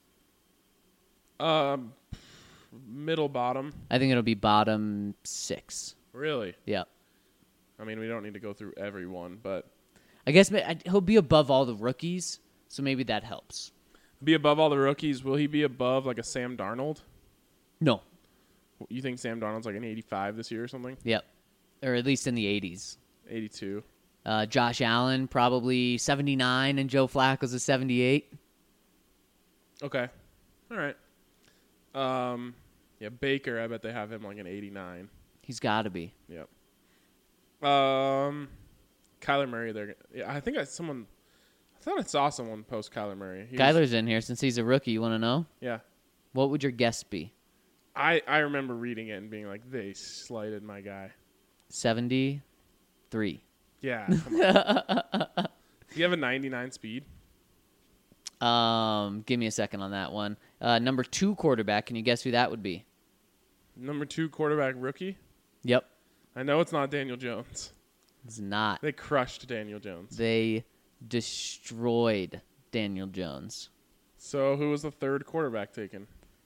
Um, middle bottom, I think it'll be bottom six. really. Yep. I mean, we don't need to go through every one, but I guess ma- I- he'll be above all the rookies, so maybe that helps. be above all the rookies. Will he be above like a Sam Darnold? No. You think Sam Darnold's like an eighty-five this year or something? Yep. Or at least in the eighties. eighty-two. Uh, Josh Allen probably seventy-nine, and Joe Flacco's a seventy-eight. Okay. All right. Um, yeah, Baker, I bet they have him like an eighty-nine. He's got to be. Yep. Um, Kyler Murray, they're yeah, I think I someone I thought I saw someone post Kyler Murray. He was- Kyler's in here since he's a rookie. You want to know? yeah. What would your guess be? I, I remember reading it and being like, they slighted my guy. seventy-three. Yeah. Come on. Do you have a ninety-nine speed? Um, give me a second on that one. Uh, number two quarterback. Can you guess who that would be? Number two quarterback rookie? Yep. I know it's not Daniel Jones. It's not. They crushed Daniel Jones. They destroyed Daniel Jones. So who was the third quarterback taken?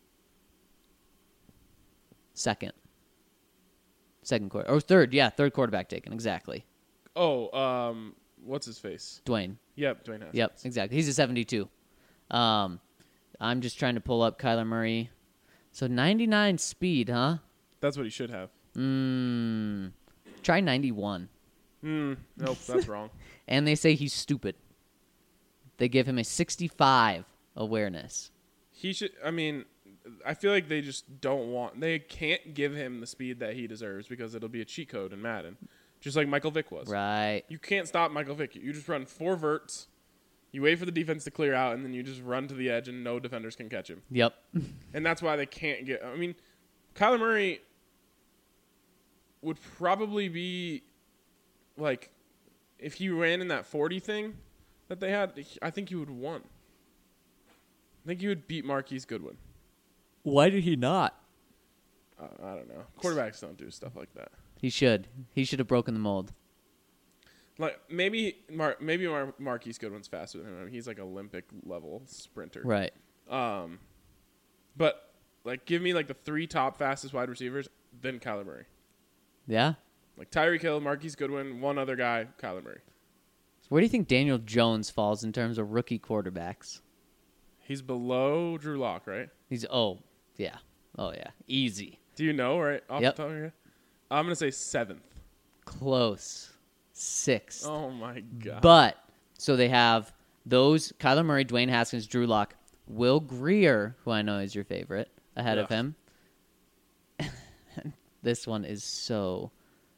Second. Second quarter. Or third. Yeah, third quarterback taken. Exactly. Oh, um, what's his face? Dwayne. Yep, Dwayne Haskins. Yep, exactly. He's a seventy-two. Um, I'm just trying to pull up Kyler Murray. So ninety-nine speed, huh? That's what he should have. Mmm. Try ninety-one. Hmm. Nope, that's wrong. And they say he's stupid. They give him a sixty-five awareness. He should. I mean, I feel like they just don't want. They can't give him the speed that he deserves because it'll be a cheat code in Madden, just like Michael Vick was. Right. You can't stop Michael Vick. You just run four verts. You wait for the defense to clear out, and then you just run to the edge, and no defenders can catch him. Yep. And that's why they can't get. I mean, Kyler Murray would probably be like, if he ran in that forty thing that they had, I think he would have won. I think he would beat Marquise Goodwin. Why did he not? Uh, I don't know. Quarterbacks don't do stuff like that. He should. He should have broken the mold. Like maybe Mar- maybe Mar- Marquise Goodwin's faster than him. I mean, he's like Olympic level sprinter. Right. Um, but like, give me like the three top fastest wide receivers, then Kyler Murray. Yeah? Like Tyreek Hill, Marquise Goodwin, one other guy, Kyler Murray. So where do you think Daniel Jones falls in terms of rookie quarterbacks? He's below Drew Lock, right? He's, oh, yeah. Oh, yeah. Easy. Do you know right off Yep. the top of your head? I'm gonna say seventh. Close. Sixth. Oh my god! But, so they have those, Kyler Murray, Dwayne Haskins, Drew Lock, Will Grier, who I know is your favorite, ahead of Ugh. him. This one is so,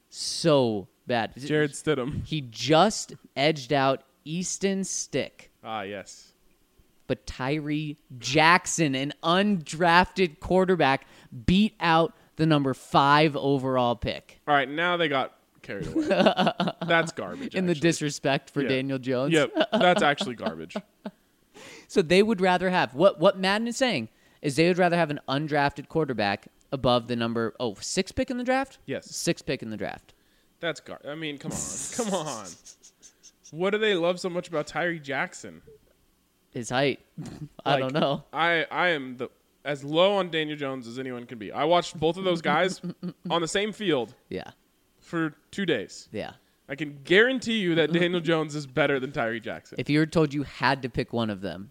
so bad. Jared Stidham. He just edged out Easton Stick. Ah, yes. But Tyree Jackson, an undrafted quarterback, beat out the number five overall pick. All right, now they got carried away. That's garbage. In the actually. disrespect for Yeah. Daniel Jones. Yep, that's actually garbage. So they would rather have, what, what Madden is saying is they would rather have an undrafted quarterback above the number, oh, six pick in the draft? Yes. Six pick in the draft. That's gar. I mean, come on, come on. What do they love so much about Tyree Jackson? His height. I Like, don't know. I I am the as low on Daniel Jones as anyone can be. I watched both of those guys on the same field Yeah. for two days. Yeah. I can guarantee you that Daniel Jones is better than Tyree Jackson. If you were told you had to pick one of them,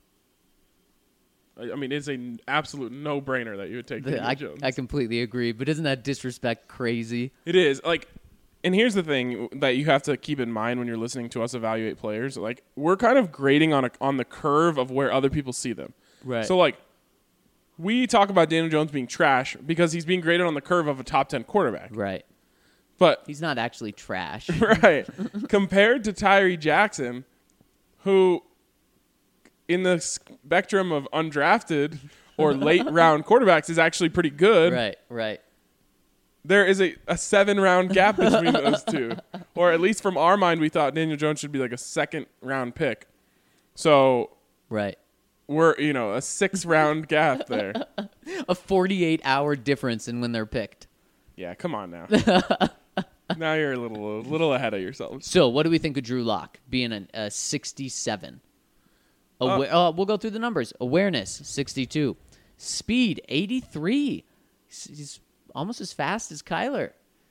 I I mean, it's an absolute no-brainer that you would take Daniel I, Jones. I completely agree. But isn't that disrespect crazy? It is like, and here's the thing that you have to keep in mind when you're listening to us evaluate players. Like, we're kind of grading on a, on the curve of where other people see them. Right. So like, we talk about Daniel Jones being trash because he's being graded on the curve of a top ten quarterback. Right. But He's not actually trash. right, compared to Tyree Jackson, who, in the spectrum of undrafted or late round quarterbacks, is actually pretty good. Right, right. There is a, a seven round gap between those two. Or at least from our mind, we thought Daniel Jones should be like a second round pick. So Right. we're, you know, a six round gap there. A forty-eight hour difference in when they're picked. Yeah, come on now. Now you're a little a little ahead of yourself. So, what do we think of Drew Lock being a, a sixty-seven? Awa- uh, we'll go through the numbers. Awareness, sixty-two. Speed, eighty-three. He's- He's almost as fast as Kyler.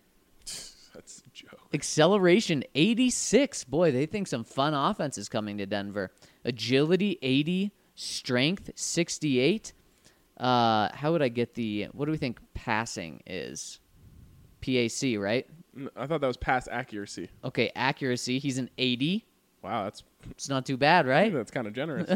That's a joke. Acceleration, eighty-six. Boy, they think some fun offense is coming to Denver. Agility, eighty. Strength, sixty-eight. Uh, how would I get the, what do we think passing is? P A C, right? N- I thought that was pass accuracy. Okay, accuracy, he's an eighty. Wow, that's It's not too bad, right? that's kind of generous.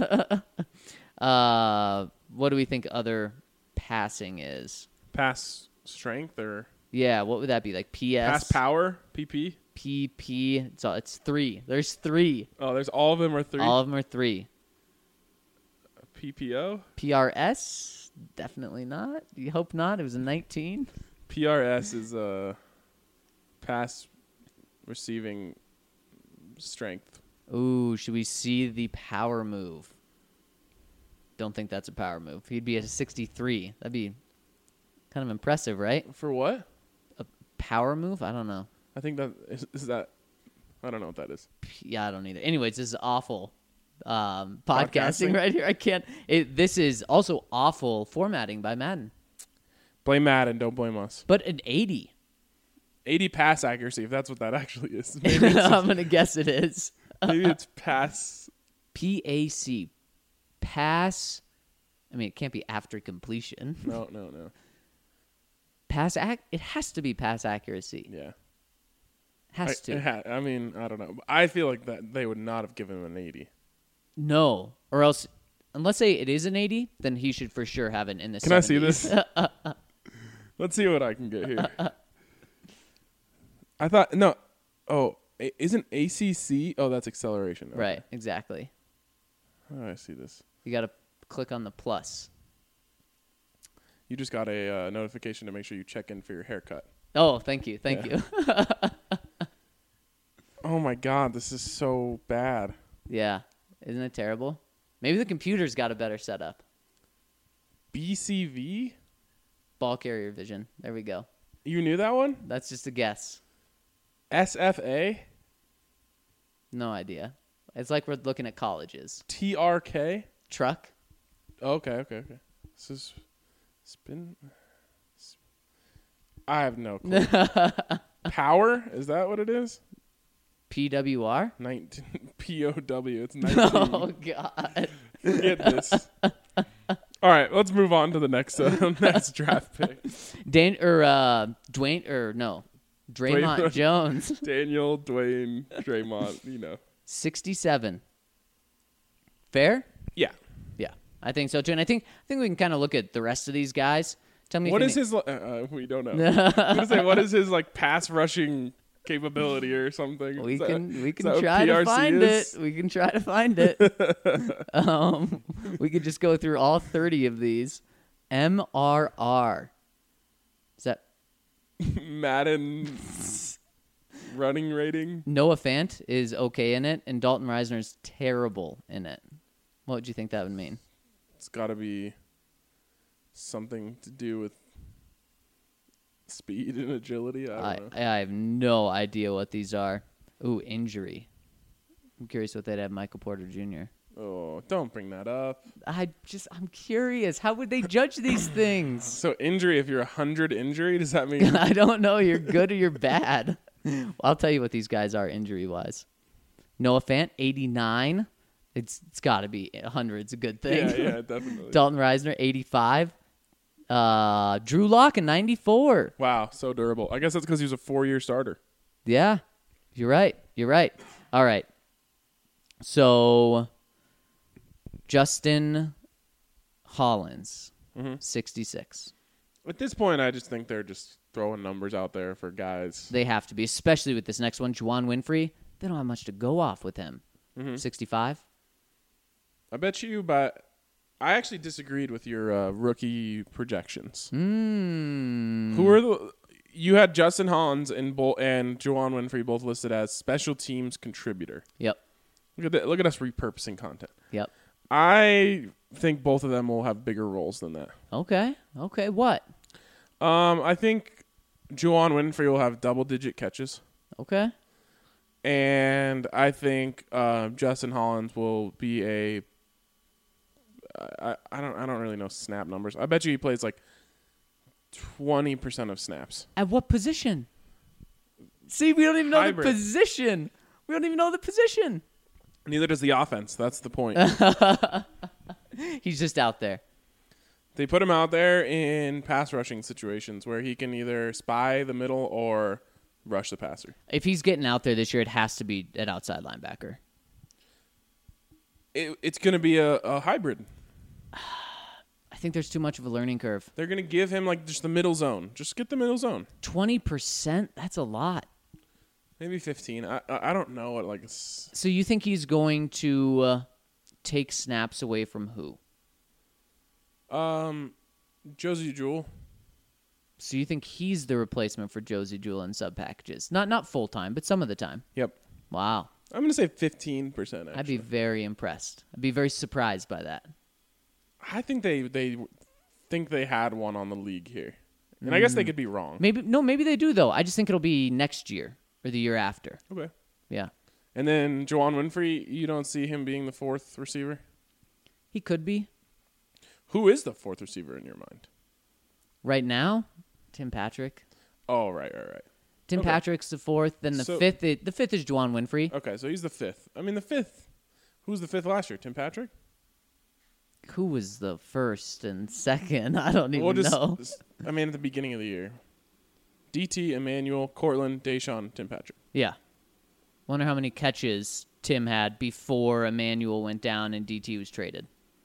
Uh, what do we think other passing is? Pass strength or Yeah, what would that be? Like P S? pass power, P P. P P. It's, all, it's three. There's three. Oh, there's all of them are three. All of them are three. P P O, P R S? Definitely not. You hope not. It was a nineteen. P R S is uh, pass receiving strength. Ooh, should we see the power move? Don't think that's a power move. He'd be at a sixty-three. That'd be kind of impressive, right? For what? A power move? I don't know. I think that is, is that. I don't know what that is. Yeah, I don't either. Anyways, this is awful um, podcasting, Podcasting? right here. I can't. It, this is also awful formatting by Madden. Blame Madden, don't blame us. But an eighty. eighty pass accuracy, if that's what that actually is. Maybe it's, I'm going to guess it is. maybe it's pass. P A C. Pass. I mean, it can't be after completion. No, no, no. Pass ac- It has to be pass accuracy. Yeah. Has I, to. it ha- I mean, I don't know. I feel like that they would not have given him an eighty. No. Or else, unless say it is an eighty, then he should for sure have it in the Can I see seventies. this? Let's see what I can get here. I thought no. Oh, a- isn't A C C? Oh, that's acceleration. Okay. Right, exactly. How do I see this? You got to click on the plus. You just got a uh, notification to make sure you check in for your haircut. Oh, thank you. Thank Yeah. you. Oh my God, this is so bad. Yeah. Isn't it terrible? Maybe the computer's got a better setup. B C V? Ball carrier vision. There we go. You knew that one? That's just a guess. S F A? No idea. It's like we're looking at colleges. T R K? Truck. Oh, okay, okay, okay. This is spin. I have no clue. Power? Is that what it is? P W R. nineteen P O W. It's nineteen. Oh, God. Forget this. All right, let's move on to the next uh, next draft pick. Dan or uh, Dwayne or no, Draymond Draymond. Jones. Daniel, Dwayne, Draymond. You know. sixty-seven. Fair? Yeah. Yeah, I think so too. And I think I think we can kind of look at the rest of these guys Tell me What if is any- his? li- Uh, uh, we don't know. I'm gonna say, what is his like pass rushing capability or something? We Is that- can we is can that what try P R to C find is? it. We can try to find it. um, we could just go through all thirty of these. M R R. Is that Madden running rating. Noah Fant is okay in it, and Dalton Reisner is terrible in it. What would you think that would mean? It's got to be something to do with speed and agility. I don't I, know. I have no idea what these are. Ooh, injury. I'm curious what they'd have Michael Porter Junior Oh, don't bring that up. I just, I'm curious. How would they judge these things? So injury, if you're a hundred injury, does that mean I don't know. You're good or you're bad. Well, I'll tell you what these guys are injury wise. Noah Fant, eighty-nine. It's it's got to be one hundred. It's a good thing. Yeah, yeah, definitely. Dalton Reisner, eighty-five. Uh, Drew Lock, a ninety-four. Wow, so durable. I guess that's because he was a four-year starter. Yeah, you're right. You're right. All right. So, Justin Hollins, Mm-hmm. sixty-six. At this point, I just think they're just throwing numbers out there for guys. They have to be, especially with this next one, Juwan Winfrey. They don't have much to go off with him. Mm-hmm. sixty-five. I bet you, but I actually disagreed with your uh, rookie projections. Mm. Who are the? You had Justin Hollins and Bo- and Juwan Winfrey both listed as special teams contributor. Yep. Look at that, look at us repurposing content. Yep. I think both of them will have bigger roles than that. Okay. Okay. What? Um, I think Juwan Winfrey will have double-digit catches, Okay. and I think uh, Justin Hollins will be a. I, I don't I don't really know snap numbers. I bet you he plays like twenty percent of snaps. At what position? See, we don't even know Hybrid. the position. We don't even know the position. Neither does the offense. That's the point. He's just out there. They put him out there in pass rushing situations where he can either spy the middle or rush the passer. If he's getting out there this year, it has to be an outside linebacker. It, it's going to be a, a hybrid. I think there's too much of a learning curve. They're going to give him like just the middle zone. Just get the middle zone. twenty percent? That's a lot. Maybe fifteen. I I I don't know what like. s- So you think he's going to uh, take snaps away from who? Um, Josie Jewell. So you think he's the replacement for Josie Jewell in sub packages? Not not full time, but some of the time. Yep. Wow. I'm going to say fifteen percent. I'd be very impressed. I'd be very surprised by that. I think they they think they had one on the league here, and I guess they could be wrong. Maybe no, maybe they do though. I just think it'll be next year or the year after. Okay. Yeah. And then Juwan Winfrey, you don't see him being the fourth receiver. He could be. Who is the fourth receiver in your mind? Right now, Tim Patrick. Oh, right, right, right. Tim Okay. Patrick's the fourth. Then the So- fifth. i- The fifth is Juwan Winfrey. Okay, so he's the fifth. I mean, the fifth. Who was the fifth last year? Tim Patrick? Who was the first and second? I don't even Well, just, know. just- I mean, at the beginning of the year. D T, Emmanuel, Cortland, Deshaun, Tim Patrick. Yeah. Wonder how many catches Tim had before Emmanuel went down and D T was traded.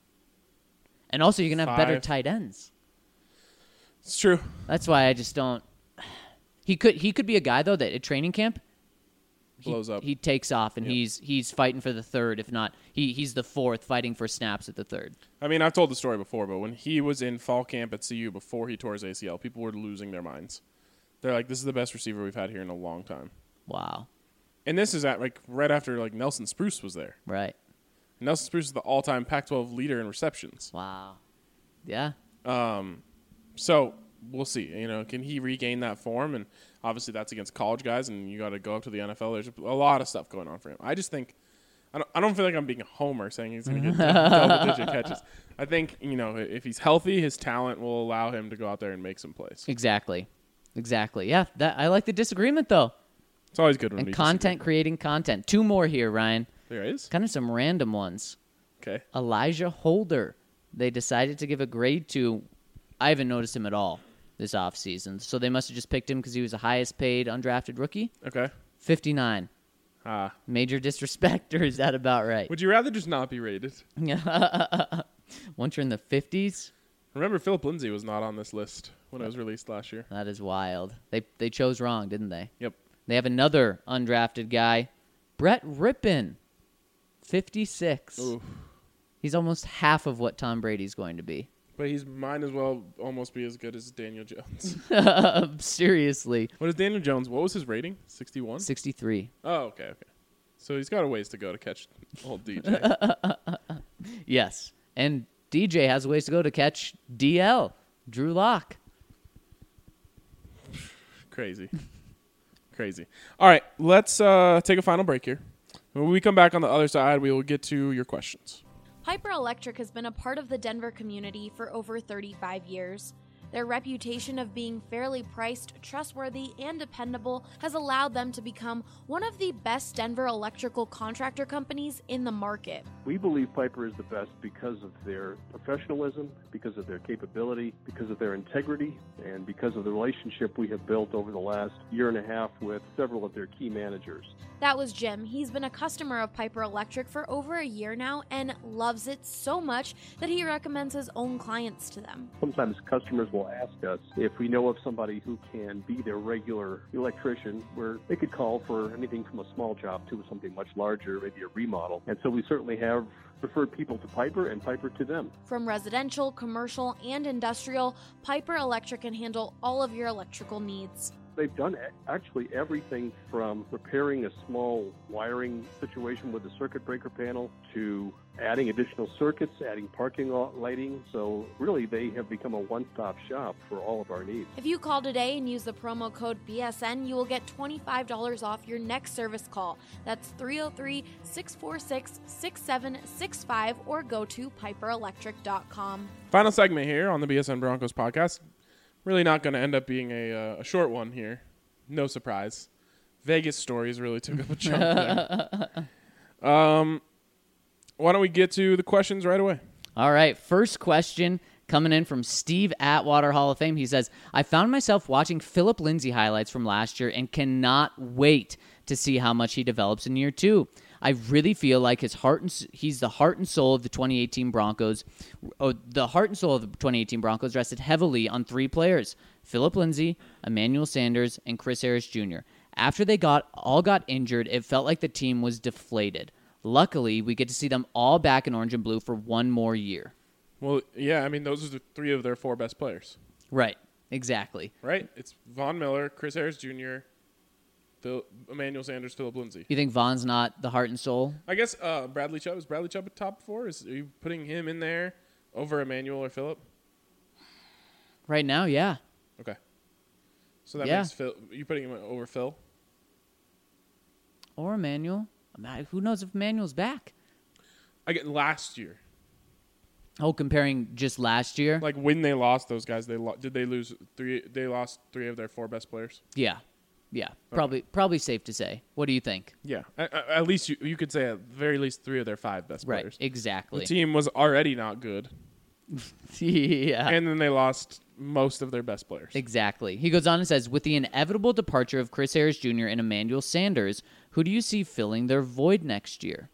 And also, you're gonna have better Five. tight ends. It's true. That's why I just don't. He could he could be a guy though that at training camp he, Blows up. He takes off and Yep. he's he's fighting for the third. If not, he he's the fourth, fighting for snaps at the third. I mean, I've told the story before, but when he was in fall camp at C U before he tore his A C L, people were losing their minds. They're like, this is the best receiver we've had here in a long time. Wow. And this is at like right after like Nelson Spruce was there. Right. Nelson Spruce is the all-time Pac twelve leader in receptions. Wow. Yeah. Um, so we'll see. You know, can he regain that form? And obviously, that's against college guys, and you got to go up to the N F L. There's a lot of stuff going on for him. I just think, I don't, I don't feel like I'm being a homer saying he's going to get double-digit catches. I think you know if he's healthy, his talent will allow him to go out there and make some plays. Exactly. Exactly. Yeah. That I like the disagreement though. It's always good when And we content creating content. Two more here, Ryan. disagree. There is. Kind of some random ones. Okay. Elijah Holder. They decided to give a grade to. I haven't noticed him at all this offseason. So they must have just picked him because he was the highest paid undrafted rookie. Okay. fifty-nine. Ah. Major disrespect, or is that about right? Would you rather just not be rated? Once you're in the fifties, Remember, Philip Lindsay was not on this list when it was released last year. That is wild. They they chose wrong, didn't they? Yep. They have another undrafted guy, Brett Rippon, fifty-six. Ooh. He's almost half of what Tom Brady's going to be. But he's might as well almost be as good as Daniel Jones. Seriously. What is Daniel Jones? What was his rating? sixty-one? sixty-three. Oh, okay, okay. So he's got a ways to go to catch old D J. Yes. And D J has a ways to go to catch D L, Drew Lock. Crazy. Crazy. All right, let's uh, take a final break here. When we come back on the other side, we will get to your questions. Piper Electric has been a part of the Denver community for over thirty-five years. Their reputation of being fairly priced, trustworthy, and dependable has allowed them to become one of the best Denver electrical contractor companies in the market. We believe Piper is the best because of their professionalism, because of their capability, because of their integrity, and because of the relationship we have built over the last year and a half with several of their key managers. That was Jim. He's been a customer of Piper Electric for over a year now and loves it so much that he recommends his own clients to them. Sometimes customers will ask us if we know of somebody who can be their regular electrician, where they could call for anything from a small job to something much larger, maybe a remodel. And so we certainly have referred people to Piper and Piper to them. From residential, commercial, and industrial, Piper Electric can handle all of your electrical needs. They've done actually everything from repairing a small wiring situation with a circuit breaker panel to adding additional circuits, adding parking lot lighting. So really, they have become a one-stop shop for all of our needs. If you call today and use the promo code B S N, you will get twenty-five dollars off your next service call. That's three oh three, six four six, six seven six five or go to piper electric dot com. Final segment here on the B S N Broncos podcast. Really not going to end up being a, uh, a short one here. No surprise. Vegas stories really took up a chunk there. Um, why don't we get to the questions right away? All right. First question coming in from Steve Atwater, Hall of Fame. He says, I found myself watching Philip Lindsay highlights from last year and cannot wait to see how much he develops in year two. I really feel like his heart and he's the heart and soul of the twenty eighteen Broncos. Oh, the heart and soul of the twenty eighteen Broncos rested heavily on three players: Philip Lindsay, Emmanuel Sanders, and Chris Harris Junior After they got all got injured, it felt like the team was deflated. Luckily, we get to see them all back in orange and blue for one more year. Well, yeah, I mean, those are the three of their four best players. Right, exactly. Right? It's Von Miller, Chris Harris Junior, Phil, Emmanuel Sanders, Philip Lindsay. You think Von's not the heart and soul? I guess uh, Bradley Chubb. Is Bradley Chubb a top four? Is, are you putting him in there over Emmanuel or Philip? Right now, yeah. Okay. So that Yeah. makes Phil. You putting him over Phil? Or Emmanuel. Who knows if Emmanuel's back? I get last year. Oh, comparing just last year? Like when they lost those guys, they lo- did they lose three? They lost three of their four best players. Yeah. Yeah. Probably probably safe to say. What do you think? Yeah, at, at least you you could say at very least three of their five best Right. players. Exactly. The team was already not good, yeah. and then they lost most of their best players. Exactly. He goes on and says, with the inevitable departure of Chris Harris Junior and Emmanuel Sanders, who do you see filling their void next year?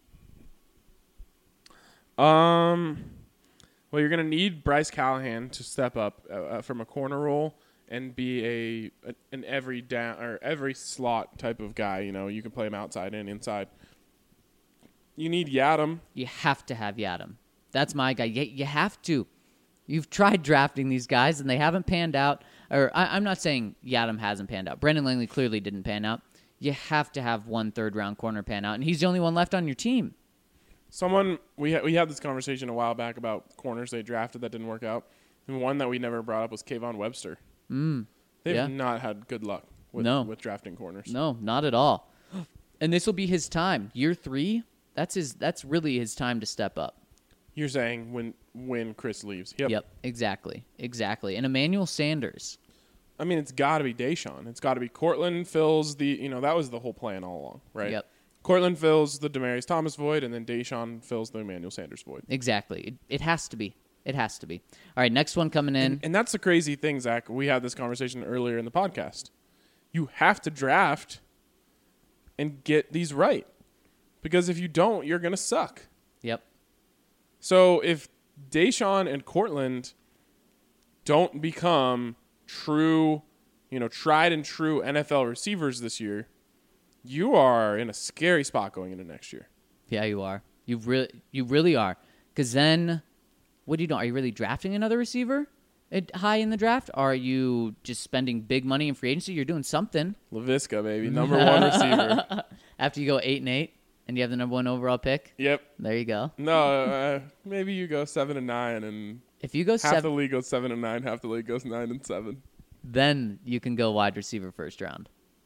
Um, well, you're going to need Bryce Callahan to step up uh, from a corner role and be a, a an every down or every slot type of guy. You know, you can play him outside and inside. You need Yadam. You have to have Yadam. That's my guy. You, you have to. You've tried drafting these guys, and they haven't panned out. Or I, I'm not saying Yadam hasn't panned out. Brendan Langley clearly didn't pan out. You have to have one third-round corner pan out, and he's the only one left on your team. Someone we ha- we had this conversation a while back about corners they drafted that didn't work out, and one that we never brought up was Kayvon Webster. Mm, They've yeah. not had good luck with No. with drafting corners. No, not at all. And this will be his time. Year three, that's his. That's really his time to step up. You're saying when when Chris leaves? Yep. Yep, exactly, exactly. And Emmanuel Sanders. I mean, it's got to be Deshaun. It's got to be Cortland fills the. You know, that was the whole plan all along, right? Yep, Cortland fills the Demaryius Thomas void, and then Deshaun fills the Emmanuel Sanders void. exactly. It, it has to be. It has to be. All right, next one coming in. And, and that's the crazy thing, Zach. We had this conversation earlier in the podcast. You have to draft and get these right, because if you don't, you're going to suck. Yep. So if Deshaun and Cortland don't become true, you know, tried and true N F L receivers this year, you are in a scary spot going into next year. Yeah, you are. You really, you really are. Because then, what do you do? Are you really drafting another receiver at high in the draft? Are you just spending big money in free agency? You're doing something. Laviska, baby, number one receiver. After you go eight and eight, and you have the number one overall pick. Yep. There you go. No, uh, maybe you go seven and nine, and If you go half seven, the league goes seven and nine, half the league goes nine and seven. then you can go wide receiver first round.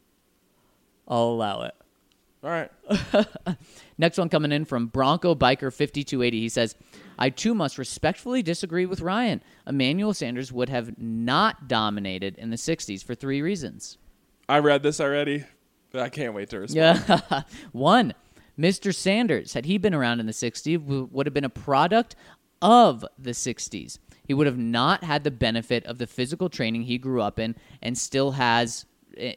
I'll allow it. All right. Next one coming in from Bronco Biker fifty-two eighty. He says, I too must respectfully disagree with Ryan. Emmanuel Sanders would have not dominated in the sixties for three reasons. I read this already, but I can't wait to respond. Yeah. One, Mister Sanders, had he been around in the sixties, w- would have been a product of the sixties. He would have not had the benefit of the physical training he grew up in and still has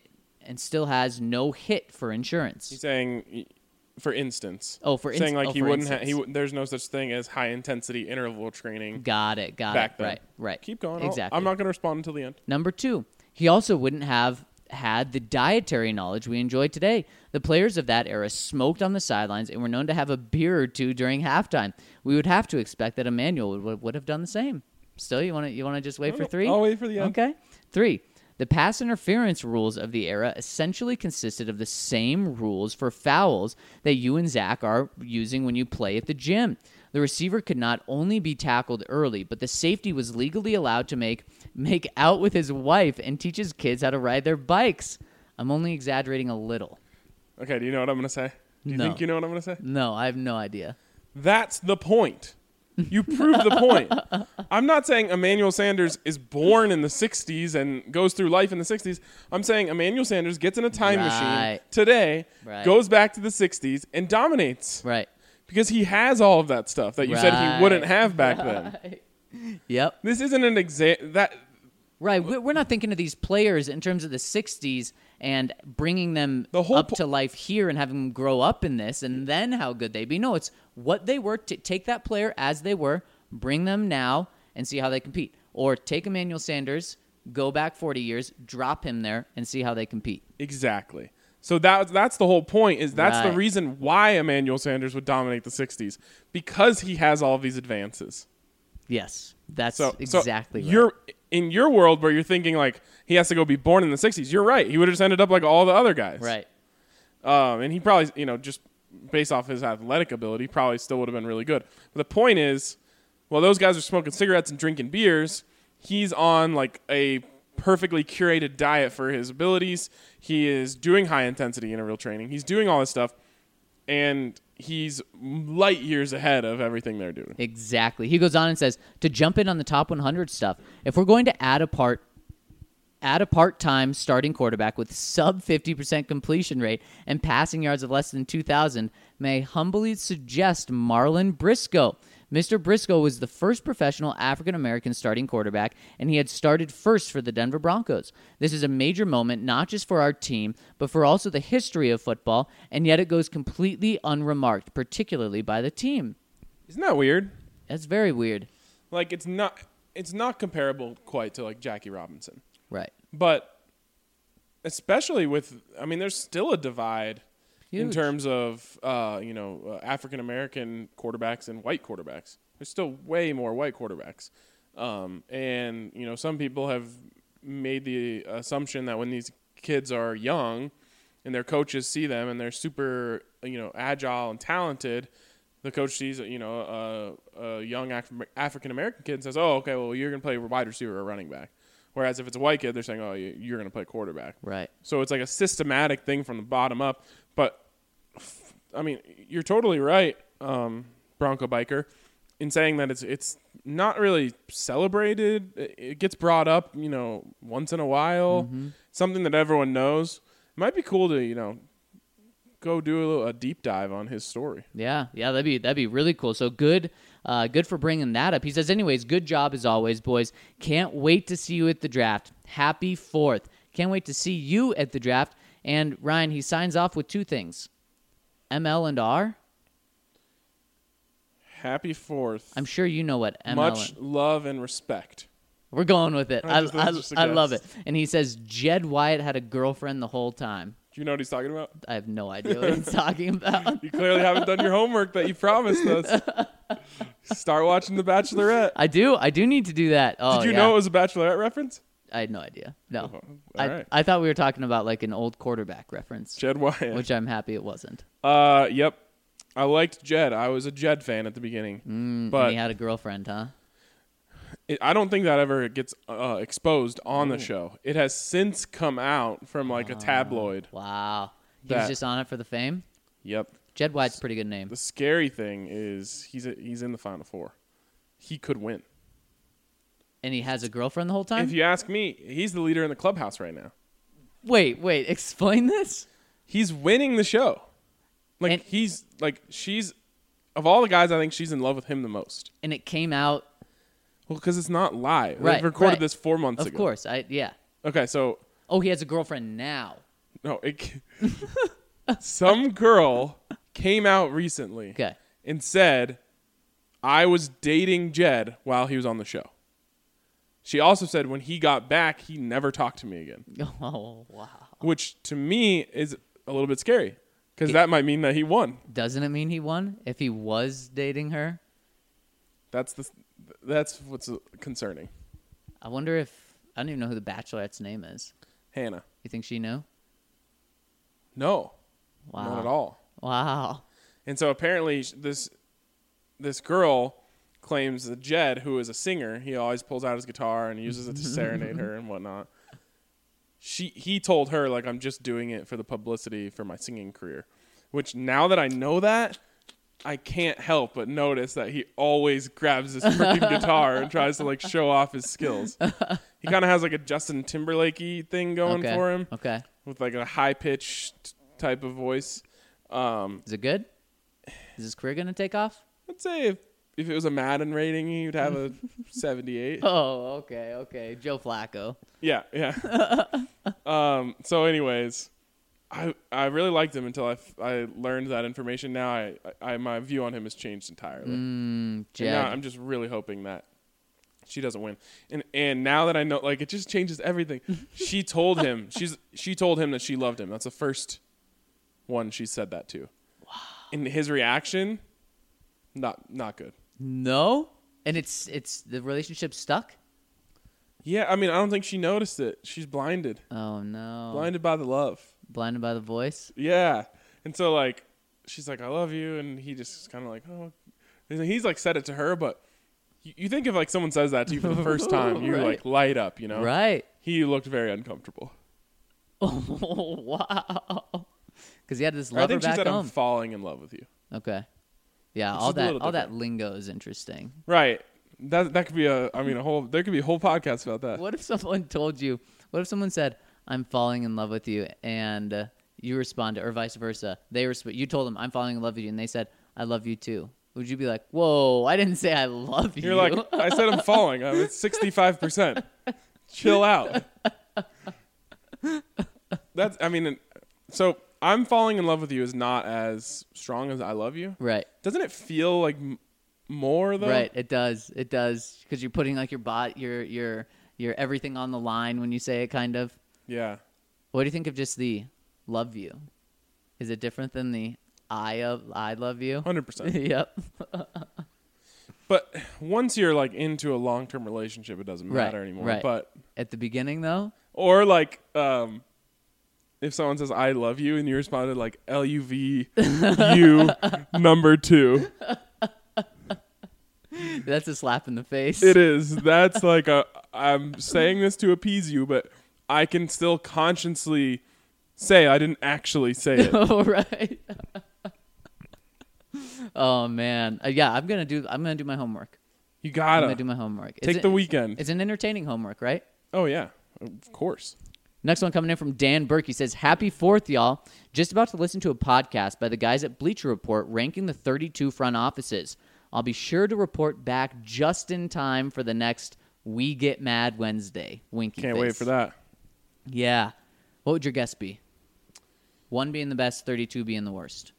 and still has no hit for insurance. He's saying, for instance. Oh, for saying instance. like oh, he for wouldn't. Ha- instance. he w- there's no such thing as high intensity interval training. Got it. Got back it. then. Right. Right. Keep going. I'll- Exactly. I'm not going to respond until the end. Number two, he also wouldn't have had the dietary knowledge we enjoy today. The players of that era smoked on the sidelines and were known to have a beer or two during halftime. We would have to expect that Emmanuel would, would have done the same. Still, you want to you want to just wait for three? I'll wait for the end. Okay. Three. The pass interference rules of the era essentially consisted of the same rules for fouls that you and Zach are using when you play at the gym. The receiver could not only be tackled early, but the safety was legally allowed to make make out with his wife and teach his kids how to ride their bikes. I'm only exaggerating a little. Okay. Do you know what I'm going to say? Do you No. think you know what I'm going to say? No, I have no idea. That's the point. You proved the point. I'm not saying Emmanuel Sanders is born in the sixties and goes through life in the sixties. I'm saying Emmanuel Sanders gets in a time Right. machine today, Right. goes back to the sixties, and dominates. Right. Because he has all of that stuff that you said Right. he wouldn't have back then. Yep. This isn't an exa- that Right. We- We're not thinking of these players in terms of the sixties and bringing them The whole up po- to life here and having them grow up in this and then how good they be. No, it's what they were. T- take that player as they were, bring them now, and see how they compete. Or take Emmanuel Sanders, go back forty years, drop him there, and see how they compete. exactly. So that that's the whole point. Is that's the Right. reason why Emmanuel Sanders would dominate the sixties, because he has all of these advances. Yes, that's So exactly so right. You're in your world where you're thinking like he has to go be born in the sixties. You're right. He would have just ended up like all the other guys. Right. Um, and he probably, you know, just based off his athletic ability, probably still would have been really good. But the point is, well, those guys are smoking cigarettes and drinking beers. He's on like a perfectly curated diet for his abilities. He is doing high intensity interval training. He's doing all this stuff, and he's light years ahead of everything they're doing. Exactly. He goes on and says, to jump in on the top one hundred stuff, if we're going to add a part, add a part-time starting quarterback with sub fifty percent completion rate and passing yards of less than two thousand, may I humbly suggest Marlon Briscoe. Mister Briscoe was the first professional African-American starting quarterback, and he had started first for the Denver Broncos. This is a major moment, not just for our team, but for also the history of football, and yet it goes completely unremarked, particularly by the team. Isn't that weird? That's very weird. Like it's not it's not comparable quite to like Jackie Robinson. Right. But especially with, I mean, there's still a divide in Huge. terms of, uh, you know, uh, African American quarterbacks and white quarterbacks. There's still way more white quarterbacks. Um, and, you know, some people have made the assumption that when these kids are young and their coaches see them and they're super, you know, agile and talented, the coach sees, you know, a, a young Af- African American kid and says, oh, okay, well, you're going to play wide receiver or running back. Whereas if it's a white kid, they're saying, oh, you- you're going to play quarterback. Right. So it's like a systematic thing from the bottom up. But, I mean, you're totally right, um, Bronco Biker, in saying that it's it's not really celebrated. It, it gets brought up, you know, once in a while. Mm-hmm. Something that everyone knows. It might be cool to, you know, go do a, little, a deep dive on his story. Yeah, yeah, that'd be that'd be really cool. So good, uh, good for bringing that up. He says, anyways, good job as always, boys. Can't wait to see you at the draft. Happy fourth. Can't wait to see you at the draft. And Ryan, he signs off with two things: M L and R. Happy fourth. I'm sure you know what M L. Much love and respect. We're going with it. I, That's just- I, that's just a I love it. guess. And he says Jed Wyatt had a girlfriend the whole time. Do you know what he's talking about? I have no idea what he's talking about. You clearly haven't done your homework that you promised us. Start watching The Bachelorette. I do. I do need to do that. Oh, Did you yeah. know it was a Bachelorette reference? I had no idea. No. Oh, all I, right. I thought we were talking about like an old quarterback reference, Jed Wyatt. which I'm happy it wasn't. Uh, yep. I liked Jed. I was a Jed fan at the beginning, Mm, but and he had a girlfriend, huh? it, I don't think that ever gets uh, exposed on the show. It has since come out from like a tabloid. Wow. He That- was just on it for the fame. Yep. Jed White's a pretty good name. The scary thing is he's a, he's in the Final Four. He could win. And he has a girlfriend the whole time? If you ask me, he's the leader in the clubhouse right now. Wait, wait. Explain this? He's winning the show. Like And- he's like she's of all the guys, I think she's in love with him the most. And it came out. Well, because it's not live. Right, They recorded right. this four months Of ago. course. I Yeah. Okay, so Oh, he has a girlfriend now. no, it, some girl came out recently Okay. and said, "I was dating Jed while he was on the show." She also said when he got back, he never talked to me again, Oh, wow. which to me is a little bit scary because that might mean that he won. Doesn't it mean he won if he was dating her? That's the that's what's concerning. I wonder if I don't even know who the Bachelorette's name is. Hannah, You think she knew? no, Wow. not at all. Wow. And so apparently sh- this this girl claims that Jed, who is a singer, he always pulls out his guitar and uses it to serenade her and whatnot. She he told her like I'm just doing it for the publicity for my singing career, which now that I know that, I can't help but notice that he always grabs this freaking guitar and tries to like show off his skills. He kind of has like a Justin Timberlake-y thing going Okay. for him Okay. with like a high pitched type of voice. Um, Is it good? Is his career gonna take off? I'd say if, if it was a Madden rating, he would have a seventy-eight. Oh, okay, okay. Joe Flacco. Yeah, yeah. um, so, anyways, I I really liked him until I, f- I learned that information. Now, I, I my view on him has changed entirely. Mm, And Jed. now I'm just really hoping that she doesn't win. And and now that I know, like, it just changes everything. She told him she's she told him that she loved him. That's the first one she said that to. Wow. And his reaction, not not good. No? And it's it's the relationship stuck? Yeah, I mean, I don't think she noticed it. She's blinded, Oh no. blinded by the love. Blinded by the voice? Yeah, and so like, she's like, "I love you," and he just kind of like, "Oh," and he's like said it to her, but you, you think if like someone says that to you for the first time, you Right. like light up, you know? Right. He looked very uncomfortable. Oh wow. Because he had this Or I lover think she back said, home. "I'm falling in love with you." Okay. Yeah, It's all just a that little all that different. lingo is interesting. Right. That that could be a. I mean, a whole. There could be a whole podcast about that. What if someone told you? What if someone said, "I'm falling in love with you," and uh, you responded, or vice versa? They resp- You told them, "I'm falling in love with you," and they said, "I love you too." Would you be like, "Whoa, I didn't say I love you"? You're like, I said I'm falling. I'm at sixty-five percent. Chill out. That's. I mean, so I'm falling in love with you is not as strong as I love you. right, Doesn't it feel like m- more though? right. It does, it does, because you're putting like your bot, your your your everything on the line when you say it. Kind of. Yeah. What do you think of just the "love you"? Is it different than the "I of I love you"? Hundred percent. Yep. But once you're like into a long-term relationship, it doesn't Right, matter anymore. right. But At the beginning, though. or like, um, if someone says "I love you" and you responded like L U V U number two. That's a slap in the face. It is. That's like a. I'm saying this to appease you, but I can still consciously say I didn't actually say it. Oh, right. Oh man, uh, yeah. I'm gonna do. I'm gonna do my homework. You I'm gotta gonna do my homework. It's take a- the weekend. It's an entertaining homework, right? Oh yeah, of course. Next one coming in from Dan Burke. He says, "Happy Fourth, y'all! Just about to listen to a podcast by the guys at Bleacher Report ranking the thirty-two front offices. I'll be sure to report back just in time for the next We Get Mad Wednesday. Winky Can't face. wait for that. Yeah. What would your guess be? One being the best, thirty-two being the worst.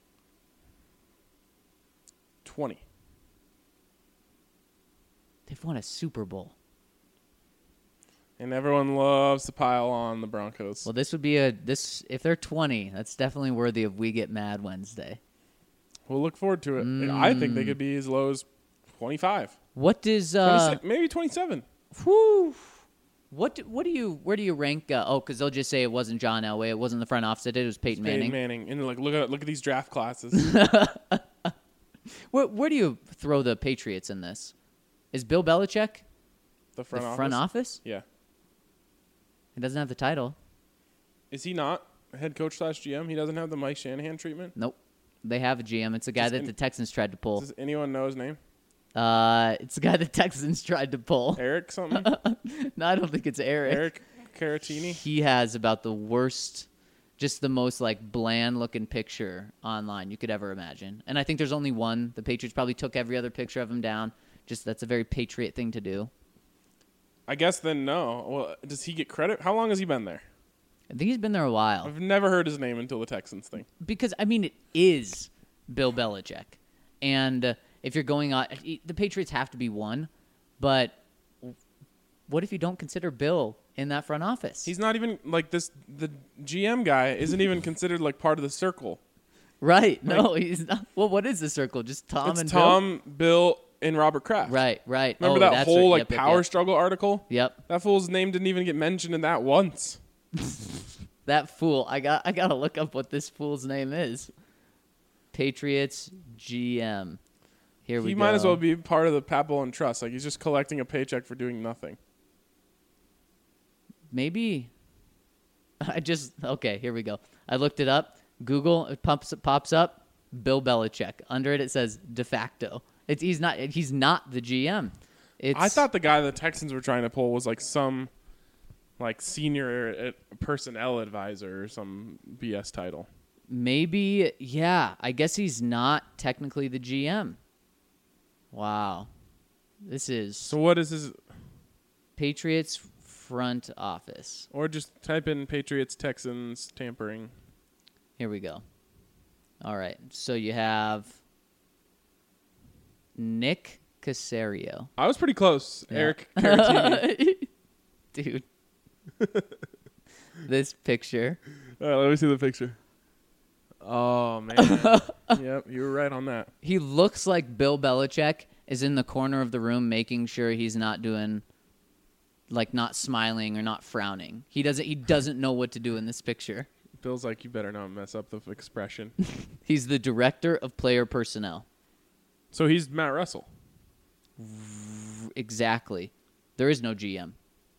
Twenty. They've won a Super Bowl. And everyone loves to pile on the Broncos. Well, this would be a this if they're twenty, that's definitely worthy of We Get Mad Wednesday. We'll look forward to it. Mm. I think they could be as low as twenty-five. What does uh maybe twenty-seven. Whew. What do, what do you where do you rank? Uh, oh, because they'll just say it wasn't John Elway, it wasn't the front office that did it, it was Peyton Peyton Manning. Manning. And like look at look at these draft classes. where where do you throw the Patriots in this? Is Bill Belichick The front the office. front office? Yeah. He doesn't have the title. Is he not head coach slash G M? He doesn't have the Mike Shanahan treatment. Nope. They have a G M. It's a guy Does that any- the Texans tried to pull. Does anyone know his name? Uh, it's a guy the Texans tried to pull. Eric something? No, I don't think it's Eric. Eric Caratini? He has about the worst, just the most like bland looking picture online you could ever imagine. And I think there's only one. The Patriots probably took every other picture of him down. Just that's a very Patriot thing to do. I guess then no. Well, does he get credit? How long has he been there? I think he's been there a while. I've never heard his name until the Texans thing. Because, I mean, it is Bill Belichick. And uh, if you're going on, the Patriots have to be one. But what if you don't consider Bill in that front office? He's not even like this. The G M guy isn't even considered like part of the circle. Right. No, he's not. Well, what is the circle? Just Tom it's and Tom, Bill? Bill, and Robert Kraft. Right, right. Remember Oh, that that's whole right. like Yep, yep, power yep. struggle article? Yep. That fool's name didn't even get mentioned in that once. That fool. I got I got to look up what this fool's name is. Patriots G M. Here we He go. might as well be part of the Pat Bowlen Trust. Like he's just collecting a paycheck for doing nothing. Maybe I just okay, here we go. I looked it up. Google it pops it pops up Bill Belichick. Under it it says de facto. It's he's not he's not the G M. It's I thought the guy the Texans were trying to pull was like some like senior uh, personnel advisor or some B S title. maybe yeah, I guess he's not technically the G M. Wow. This is So what is his? Patriots front office. Or just type in Patriots Texans tampering. Here we go. All right. So you have Nick Caserio. I was pretty close. Yeah. Eric Caratini. Dude. This picture. All right, let me see the picture. Oh man. Yep, you were right on that. He looks like Bill Belichick is in the corner of the room making sure he's not doing like not smiling or not frowning. He doesn't he doesn't know what to do in this picture. Bill's like, you better not mess up the expression. He's the director of player personnel. So he's Matt Russell. Exactly. There is no G M.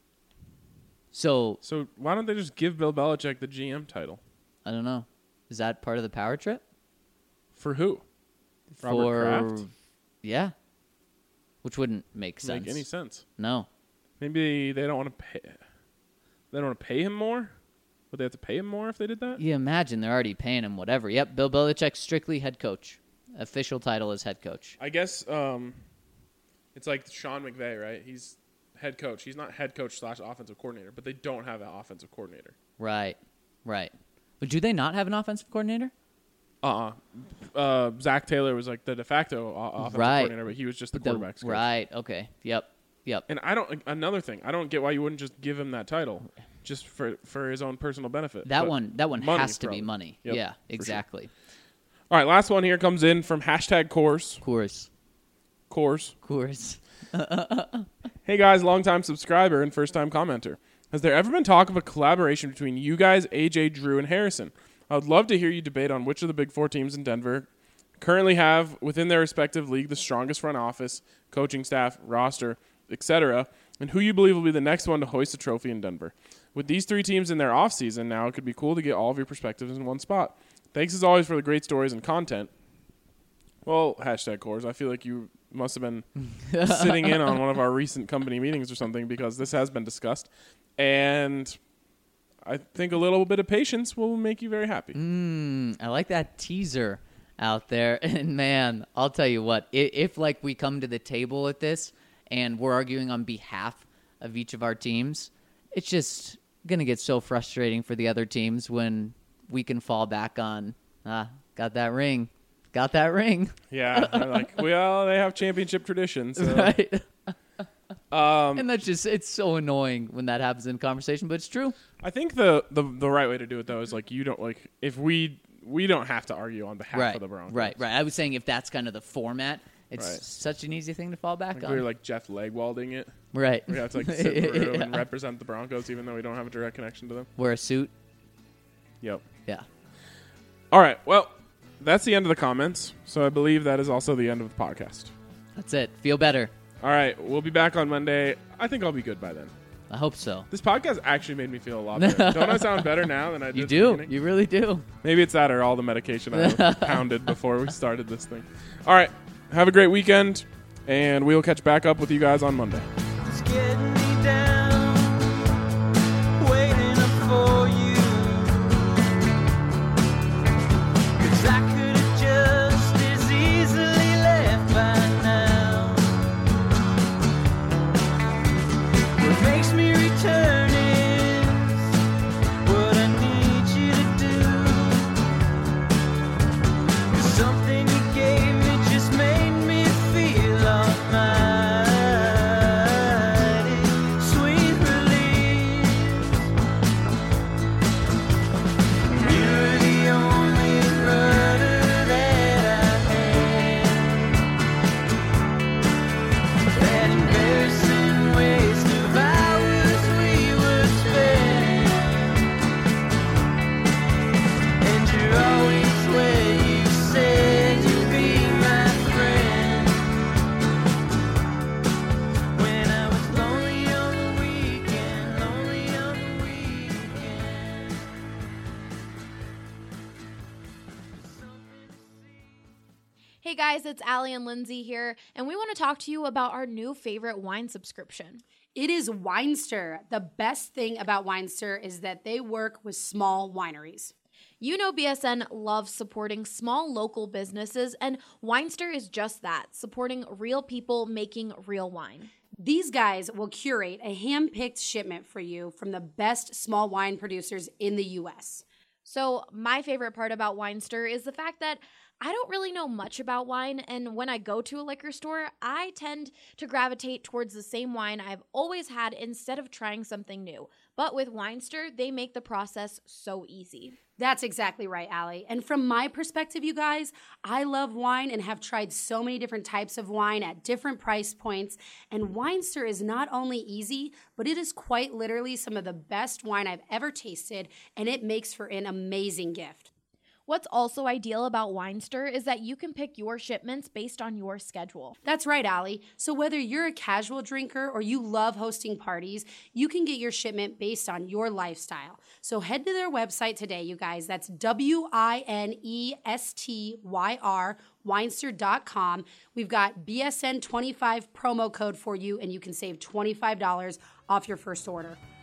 So, So why don't they just give Bill Belichick the G M title? I don't know. Is that part of the power trip? For who? Robert For Kraft? yeah. Which wouldn't make Doesn't sense. make any sense. No. Maybe they don't want to pay. They don't want to pay him more. Would they have to pay him more if they did that? You imagine they're already paying him whatever. Yep, Bill Belichick strictly head coach. Official title is head coach. I guess um, it's like Sean McVay, right? He's head coach. He's not head coach slash offensive coordinator, but they don't have an offensive coordinator. Right. Right. But do they not have an offensive coordinator? Uh-uh. Uh Zach Taylor was like the de facto o- offensive Right. coordinator, but he was just the The- quarterback's coach. right. Okay. Yep. Yep. And I don't. Another thing, I don't get why you wouldn't just give him that title, just for for his own personal benefit. That But one that one money, has to be probably. money. Yep, Yeah, for sure. exactly. All right, last one here comes in from hashtag Coors. Course. Coors. Course. Hey guys, longtime subscriber and first time commenter. Has there ever been talk of a collaboration between you guys, A J, Drew, and Harrison? I would love to hear you debate on which of the big four teams in Denver currently have within their respective league the strongest front office, coaching staff, roster, et cetera, and who you believe will be the next one to hoist a trophy in Denver. With these three teams in their offseason now, it could be cool to get all of your perspectives in one spot. Thanks as always for the great stories and content. Well, hashtag Coors, I feel like you must have been sitting in on one of our recent company meetings or something because this has been discussed. And I think a little bit of patience will make you very happy. Mm, I like that teaser out there. And man, I'll tell you what, if, if like we come to the table at this and we're arguing on behalf of each of our teams, it's just going to get so frustrating for the other teams when we can fall back on, ah, got that ring. Got that ring. Yeah, they're like, well, they have championship traditions. So. Right. Um, And that's just, it's so annoying when that happens in conversation, but it's true. I think the, the the right way to do it though is like you don't like if we we don't have to argue on behalf Right, of the Broncos. right, right. I was saying if that's kind of the format, it's Right. such an easy thing to fall back Like on. we were like Jeff Legwalding it. right. We have to like sit in the room and Yeah. represent the Broncos even though we don't have a direct connection to them. Wear a suit. Yep. Yeah. All right. Well, that's the end of the comments. So I believe that is also the end of the podcast. That's it. Feel better. All right. We'll be back on Monday. I think I'll be good by then. I hope so. This podcast actually made me feel a lot better. Don't I sound better now than I did You at the do. beginning? You really do. Maybe it's that or all the medication I pounded before we started this thing. All right. Have a great weekend, and we'll catch back up with you guys on Monday. It's getting me down, waiting up for you. 'Cause I could have just as easily left by now. What makes me return is what I need you to do. 'Cause something you gave me just made me feel almighty. Sweet relief. You're the only rudder that I had. That embarrassing waste of hours we would spend. And you're always where you said you'd be my friend. When I was lonely on the weekend, lonely on the weekend. Hey guys, it's Allie and Lindsay here, and we want to talk to you about our new favorite wine subscription. It is Winester. The best thing about Winester is that they work with small wineries. You know B S N loves supporting small local businesses, and Winester is just that, supporting real people making real wine. These guys will curate a hand-picked shipment for you from the best small wine producers in the U S. So my favorite part about Winester is the fact that I don't really know much about wine, and when I go to a liquor store, I tend to gravitate towards the same wine I've always had instead of trying something new. But with Winester, they make the process so easy. That's exactly right, Allie. And from my perspective, you guys, I love wine and have tried so many different types of wine at different price points. And Winester is not only easy, but it is quite literally some of the best wine I've ever tasted, and it makes for an amazing gift. What's also ideal about Winester is that you can pick your shipments based on your schedule. That's right, Allie. So whether you're a casual drinker or you love hosting parties, you can get your shipment based on your lifestyle. So head to their website today, you guys. That's W I N E S T Y R, Winester dot com. We've got B S N twenty-five promo code for you, and you can save twenty-five dollars off your first order.